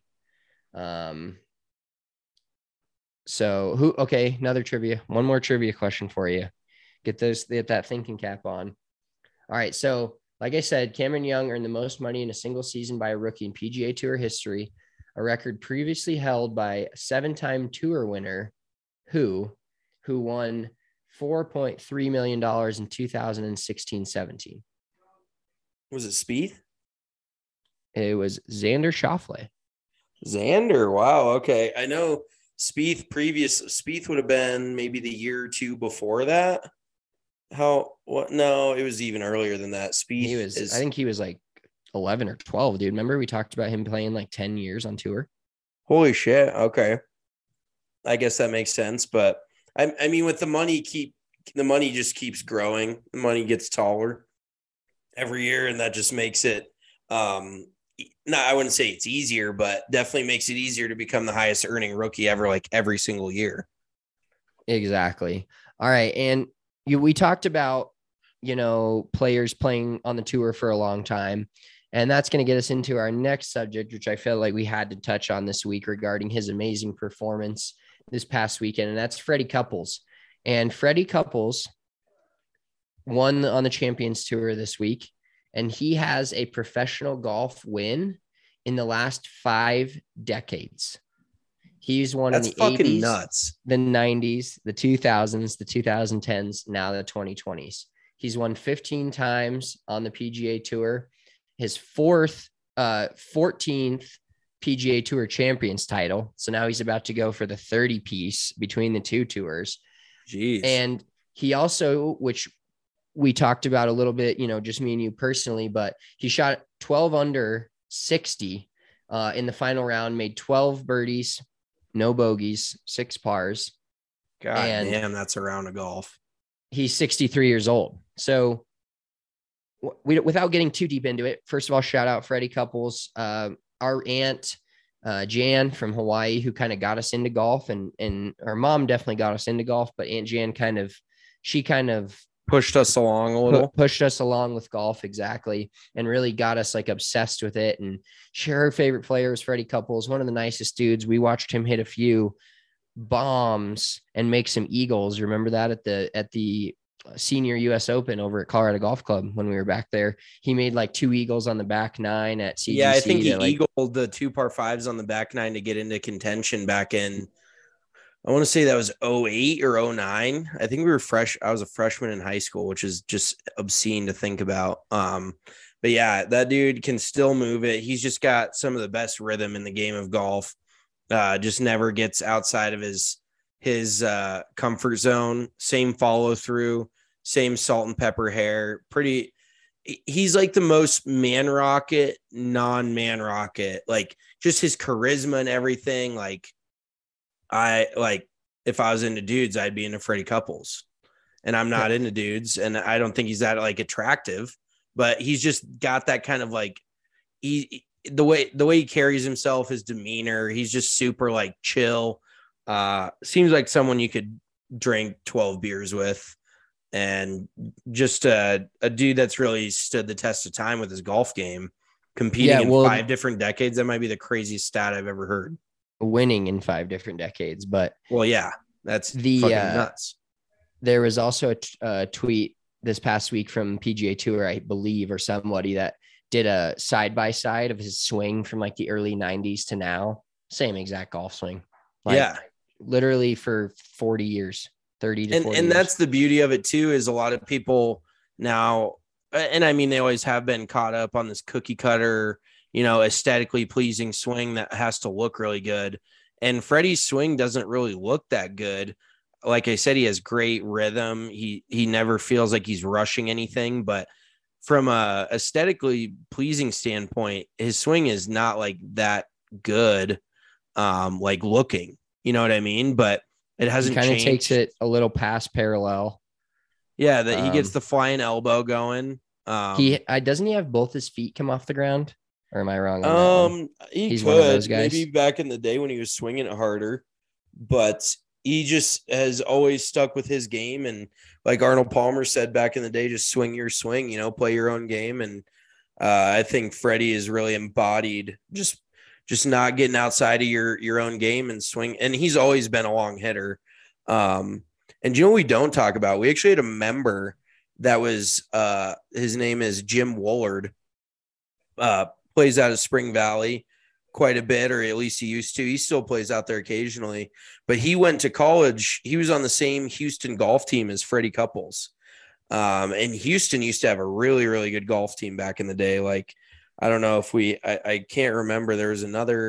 Another trivia. One more trivia question for you. Get that thinking cap on. All right. So like I said, Cameron Young earned the most money in a single season by a rookie in PGA Tour history, a record previously held by a 7-time tour winner who won $4.3 million in 2016-17. Was it Spieth? It was Xander Schauffele. Xander. Wow. Okay. I know Spieth would have been maybe the year or two before that. What? No, it was even earlier than that. I think he was like 11 or 12, dude. Remember we talked about him playing like 10 years on tour? Holy shit. Okay. I guess that makes sense. But I mean, with the money just keeps growing. The money gets taller every year. And that just makes it, I wouldn't say it's easier, but definitely makes it easier to become the highest earning rookie ever, like every single year. Exactly. All right. And we talked about, players playing on the tour for a long time. And that's going to get us into our next subject, which I felt like we had to touch on this week regarding his amazing performance this past weekend. And that's Freddie Couples. And Freddie Couples won on the Champions Tour this week. And he has a professional golf win in the last 5 decades. He's won in the 80s, nuts. the 90s, the 2000s, the 2010s, now the 2020s. He's won 15 times on the PGA Tour. His 14th PGA Tour Champions title. So now he's about to go for the 30-piece between the two tours. Jeez. And he also, which we talked about a little bit, just me and you personally, but he shot 12 under 60 in the final round, made 12 birdies, no bogeys, 6 pars. God damn, that's a round of golf. He's 63 years old. So without getting too deep into it, first of all, shout out Freddie Couples, our aunt, Jan from Hawaii, who kind of got us into golf, and our mom definitely got us into golf, but Aunt Jan kind of pushed us along a little, pushed us along with golf. Exactly. And really got us like obsessed with it. And her favorite player was Freddie Couples, one of the nicest dudes. We watched him hit a few bombs and make some eagles. Remember that at the senior US Open over at Colorado Golf Club when we were back there. He made like 2 eagles on the back 9 at CGC. Yeah, I think he eagled the 2 par 5s on the back 9 to get into contention back in, I want to say that was 08 or 09. I think we were fresh. I was a freshman in high school, which is just obscene to think about. But yeah, that dude can still move it. He's just got some of the best rhythm in the game of golf. Just never gets outside of his comfort zone. Same follow through, same salt and pepper hair. He's like the most man rocket, non-man rocket. Like just his charisma and everything. Like if I was into dudes, I'd be into Freddie Couples, and I'm not into dudes, and I don't think he's that like attractive, but he's just got that kind of like the way he carries himself, his demeanor, he's just super like chill. Seems like someone you could drink 12 beers with, and just a dude that's really stood the test of time with his golf game, competing in 5 different decades. That might be the craziest stat I've ever heard. Winning in 5 different decades, but yeah, that's fucking nuts. There was also a tweet this past week from PGA Tour, I believe, or somebody that did a side-by-side of his swing from like the early 90s to now. Same exact golf swing. Literally for 40 years, 30 to 40 years. And that's the beauty of it too, is a lot of people now, and I mean, they always have been caught up on this cookie cutter, aesthetically pleasing swing that has to look really good. And Freddie's swing doesn't really look that good. Like I said, he has great rhythm. He never feels like he's rushing anything, but from a aesthetically pleasing standpoint, his swing is not like that good, like looking, you know what I mean? But it hasn't changed. Kind of takes it a little past parallel. Yeah, that he gets the flying elbow going. Doesn't he have both his feet come off the ground? Or am I wrong? He's one of those guys. Maybe back in the day when he was swinging it harder, but he just has always stuck with his game. And like Arnold Palmer said back in the day, just swing your swing, play your own game. And I think Freddie is really embodied just not getting outside of your own game and swing. And he's always been a long hitter. And what we don't talk about? We actually had a member that was his name is Jim Woolard. Plays out of Spring Valley quite a bit, or at least he used to. He still plays out there occasionally, but he went to college. He was on the same Houston golf team as Freddie Couples. And Houston used to have a really, really good golf team back in the day. Like, I don't know if I can't remember. There's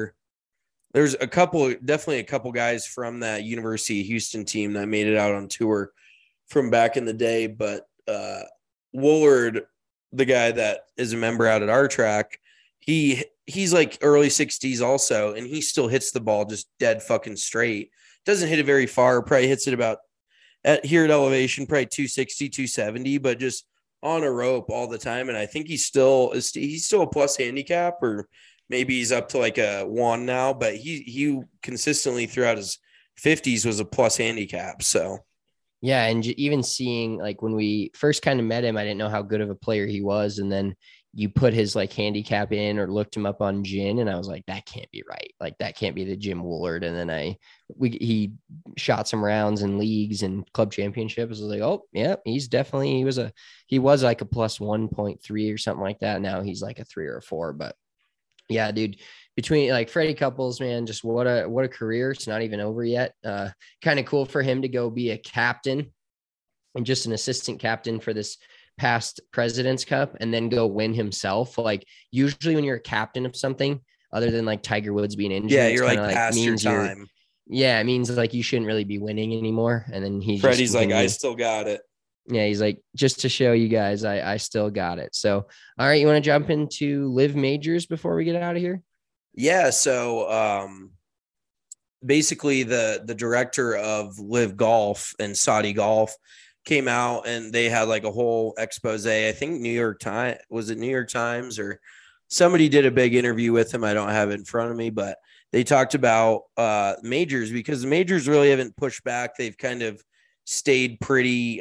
definitely a couple guys from that University of Houston team that made it out on tour from back in the day. But Woolard, the guy that is a member out at our track, he's like early 60s also, and he still hits the ball just dead fucking straight. Doesn't hit it very far, probably hits it about here at elevation, probably 260, 270, but just on a rope all the time. And I think he's still a plus handicap, or maybe he's up to like a 1 now, but he consistently throughout his 50s was a plus handicap. So yeah, and even seeing, like, when we first kind of met him, I didn't know how good of a player he was, and then you put his like handicap in or looked him up on Gin, and I was like, that can't be right. Like, that can't be the Jim Woolard. And then he shot some rounds in leagues and club championships. I was like, oh yeah, he was like a plus 1.3 or something like that. Now he's like a 3 or a 4. But yeah, dude, between like Freddie Couples, man, just what a career. It's not even over yet. Kind of cool for him to go be a captain and just an assistant captain for this past President's Cup, and then go win himself. Like, usually when you're a captain of something, other than like Tiger Woods being injured, yeah, you're like past your time. Yeah, it means like you shouldn't really be winning anymore. And then Freddie's like, I still got it. Yeah, he's like, just to show you guys, I still got it. So, all right, you want to jump into Live Majors before we get out of here? Yeah. So basically the director of Live Golf and Saudi Golf came out, and they had like a whole expose. I think New York Times or somebody did a big interview with him. I don't have it in front of me, but they talked about majors, because the majors really haven't pushed back. They've kind of stayed pretty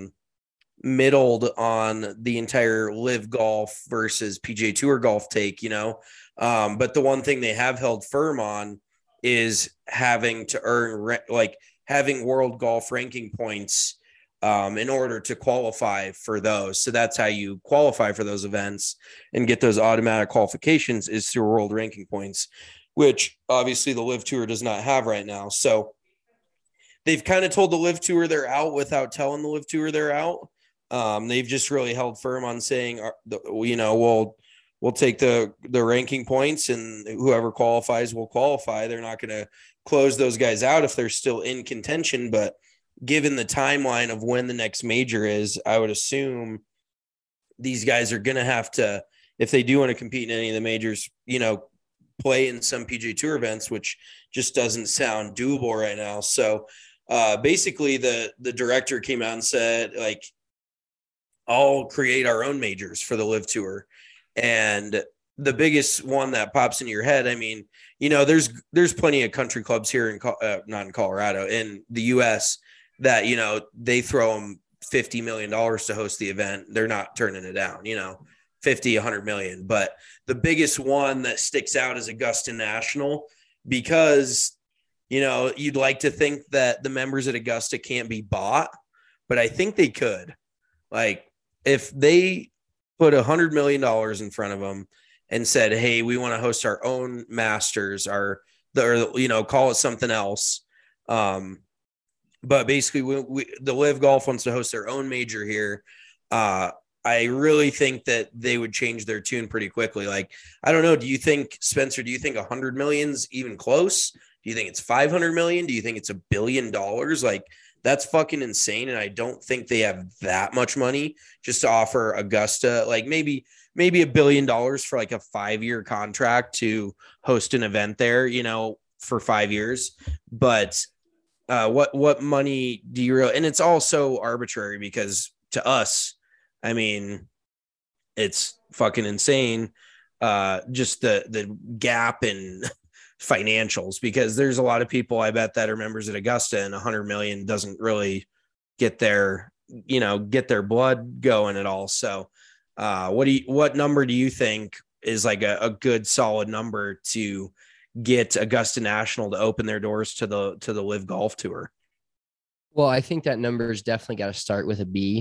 middled on the entire Live Golf versus PGA Tour golf take, but the one thing they have held firm on is having to earn having world golf ranking points in order to qualify for those. So that's how you qualify for those events and get those automatic qualifications, is through world ranking points, which obviously the Live Tour does not have right now. So they've kind of told the Live Tour they're out without telling the Live Tour they're out. They've just really held firm on saying, we'll take the ranking points, and whoever qualifies will qualify. They're not going to close those guys out if they're still in contention. But given the timeline of when the next major is, I would assume these guys are going to have to, if they do want to compete in any of the majors, play in some PGA Tour events, which just doesn't sound doable right now. So basically the director came out and said, like, I'll create our own majors for the Live Tour. And the biggest one that pops into your head, I mean, there's plenty of country clubs here not in Colorado, in the US, that, they throw them $50 million to host the event. They're not turning it down, 50, 100 million. But the biggest one that sticks out is Augusta National, because, you'd like to think that the members at Augusta can't be bought, but I think they could. Like, if they put $100 million in front of them and said, hey, we want to host our own Masters, or call it something else. But basically the Live Golf wants to host their own major here. I really think that they would change their tune pretty quickly. Like, I don't know. Do you think, Spencer, 100 million's even close? Do you think it's 500 million? Do you think it's $1 billion? Like, that's fucking insane. And I don't think they have that much money just to offer Augusta, like maybe $1 billion for like a 5-year contract to host an event there, for 5 years. But what money do you really, and it's all so arbitrary, because to us, I mean, it's fucking insane. Just the gap in financials, because there's a lot of people, I bet, that are members at Augusta, and 100 million doesn't really get their blood going at all. So what number do you think is like a good solid number to get Augusta National to open their doors to the Live Golf Tour? Well, I think that number has definitely got to start with a B.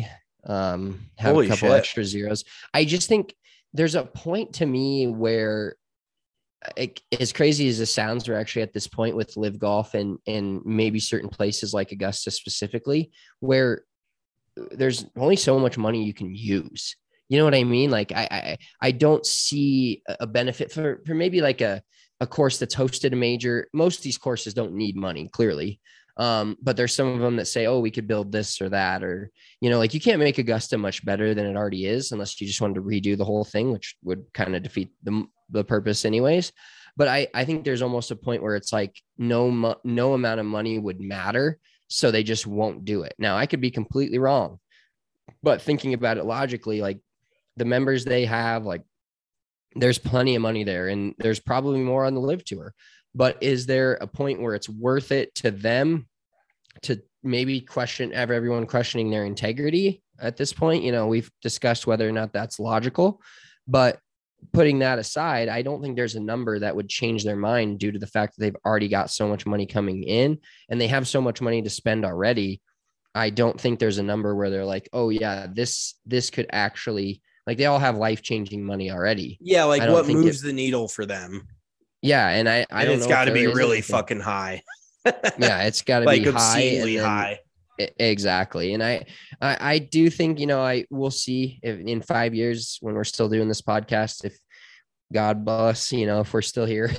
have Holy a couple shit. extra zeros. I just think there's a point to me where as crazy as this sounds, we're actually at this point with Live Golf and maybe certain places like Augusta specifically, where there's only so much money you can use. You know what I mean? Like I don't see a benefit for maybe like a course that's hosted a major. Most of these courses don't need money, clearly. But there's some of them that say, oh, we could build this or that, or, you know, like you can't make Augusta much better than it already is unless you just wanted to redo the whole thing, which would kind of defeat the purpose anyways. But I think there's almost a point where it's like no amount of money would matter. So they just won't do it. Now I could be completely wrong, but thinking about it logically, like the members they have, like there's plenty of money there and there's probably more on the Live Tour. But is there a point where it's worth it to them to maybe have everyone questioning their integrity at this point? You know, we've discussed whether or not that's logical, but putting that aside, I don't think there's a number that would change their mind due to the fact that they've already got so much money coming in and they have so much money to spend already. I don't think there's a number where they're like, oh yeah, this could actually, like, they all have life-changing money already. Yeah. Like what moves the needle for them? Yeah. And I don't know. It's got to be really fucking high. Yeah. It's got to like be obscenely high. Exactly. And I do think, you know, I will see if in 5 years when we're still doing this podcast, if God bless, you know, if we're still here,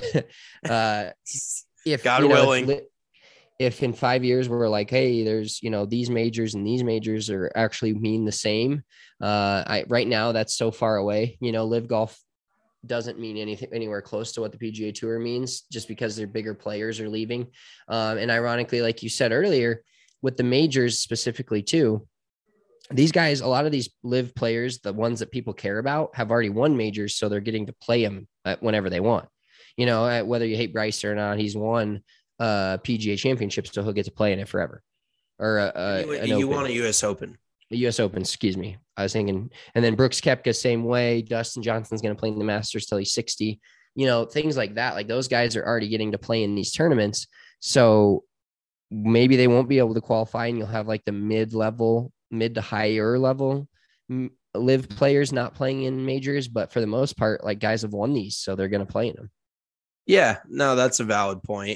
if God willing, if in 5 years we're like, hey, there's, you know, these majors and these majors are actually mean the same. Right now that's so far away, you know, Live Golf doesn't mean anything anywhere close to what the PGA Tour means just because their bigger players are leaving. And ironically, like you said earlier, with the majors specifically too, these guys, a lot of these Live players, the ones that people care about, have already won majors. So they're getting to play them whenever they want, you know, whether you hate Bryce or not, he's won PGA championship, so he'll get to play in it forever. Or you want a US Open. The US Open, excuse me. I was thinking, and then Brooks Koepka, same way. Dustin Johnson's going to play in the Masters till he's 60, you know, things like that. Like those guys are already getting to play in these tournaments. So maybe they won't be able to qualify and you'll have like the mid to higher level Live players not playing in majors. But for the most part, like guys have won these, so they're going to play in them. Yeah, no, that's a valid point.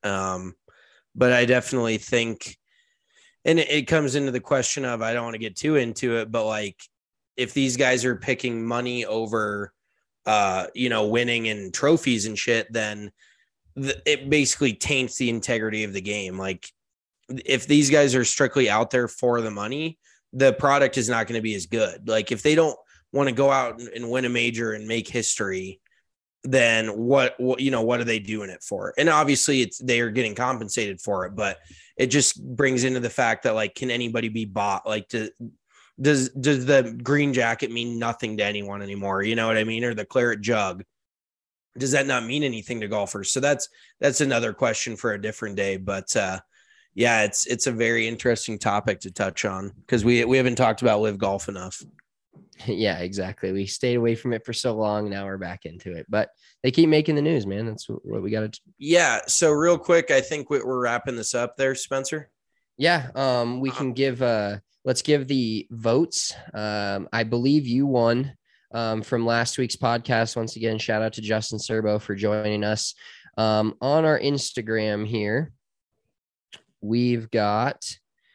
But I definitely think, and it comes into the question of, I don't want to get too into it, but like if these guys are picking money over, you know, winning and trophies and shit, then it basically taints the integrity of the game. Like if these guys are strictly out there for the money, the product is not going to be as good. Like if they don't want to go out and win a major and make history, then what, you know, what are they doing it for? And obviously they are getting compensated for it, but it just brings into the fact that like, can anybody be bought? Like does the green jacket mean nothing to anyone anymore? You know what I mean? Or the claret jug, does that not mean anything to golfers? So that's another question for a different day. But yeah, it's a very interesting topic to touch on because we haven't talked about Live Golf enough. Yeah, exactly. We stayed away from it for so long. Now we're back into it, but they keep making the news, man. That's what we got to. Yeah. So real quick, I think we're wrapping this up there, Spencer. Yeah. We can give, let's give the votes. I believe you won from last week's podcast. Once again, shout out to Justin Serbo for joining us on our Instagram here. We've got,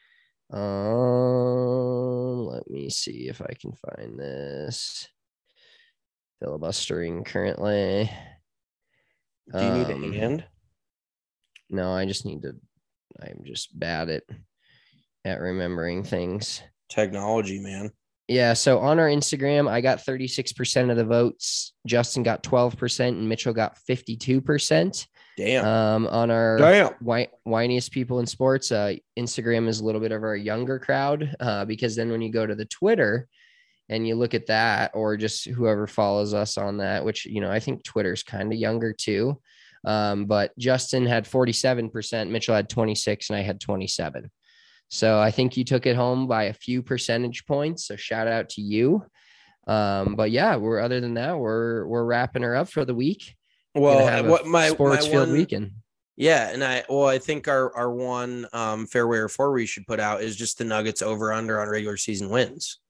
let me see if I can find this. Filibustering currently. Do you need a hand? No, I'm just bad at remembering things. Technology, man. Yeah. So on our Instagram, I got 36% of the votes. Justin got 12% and Mitchell got 52%. Damn. On our whiniest people in sports, Instagram is a little bit of our younger crowd, because then when you go to the Twitter and you look at that, or just whoever follows us on that, which, you know, I think Twitter's kind of younger too. But Justin had 47%, Mitchell had 26, and I had 27. So I think you took it home by a few percentage points. So shout out to you. But yeah, other than that, we're wrapping her up for the week. Well, what my sports field weekend. Yeah, and I think our one fairway or four we should put out is just the Nuggets over under on regular season wins.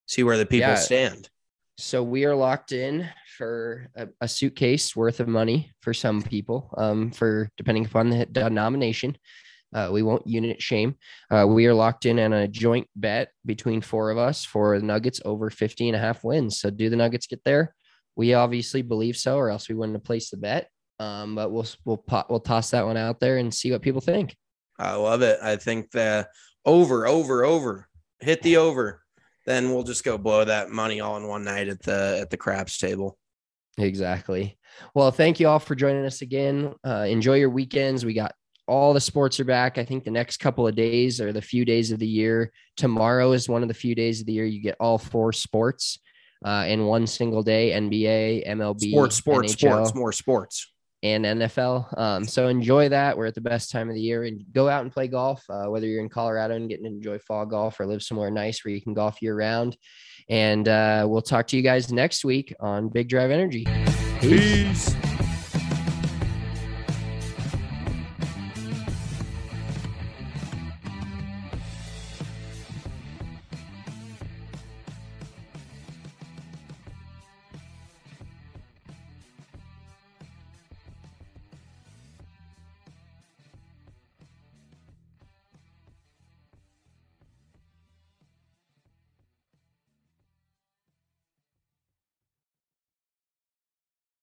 see where the people Yeah. stand. So we are locked in for a suitcase worth of money for some people, for depending upon the denomination. We won't unit shame. We are locked in on a joint bet between four of us for the Nuggets over 50.5 wins. So do the Nuggets get there? We obviously believe so, or else we wouldn't have placed the bet. But we'll toss that one out there and see what people think. I love it. I think the over, hit the over. Then we'll just go blow that money all in one night at the craps table. Exactly. Well, thank you all for joining us again. Enjoy your weekends. We got all the sports are back. I think the next couple of days are the few days of the year. Tomorrow is one of the few days of the year you get all four sports in one single day: NBA, MLB, sports, NHL, more sports, and NFL. So enjoy that. We're at the best time of the year, and go out and play golf, whether you're in Colorado and getting to enjoy fall golf or live somewhere nice where you can golf year round. And we'll talk to you guys next week on Big Drive Energy. Peace.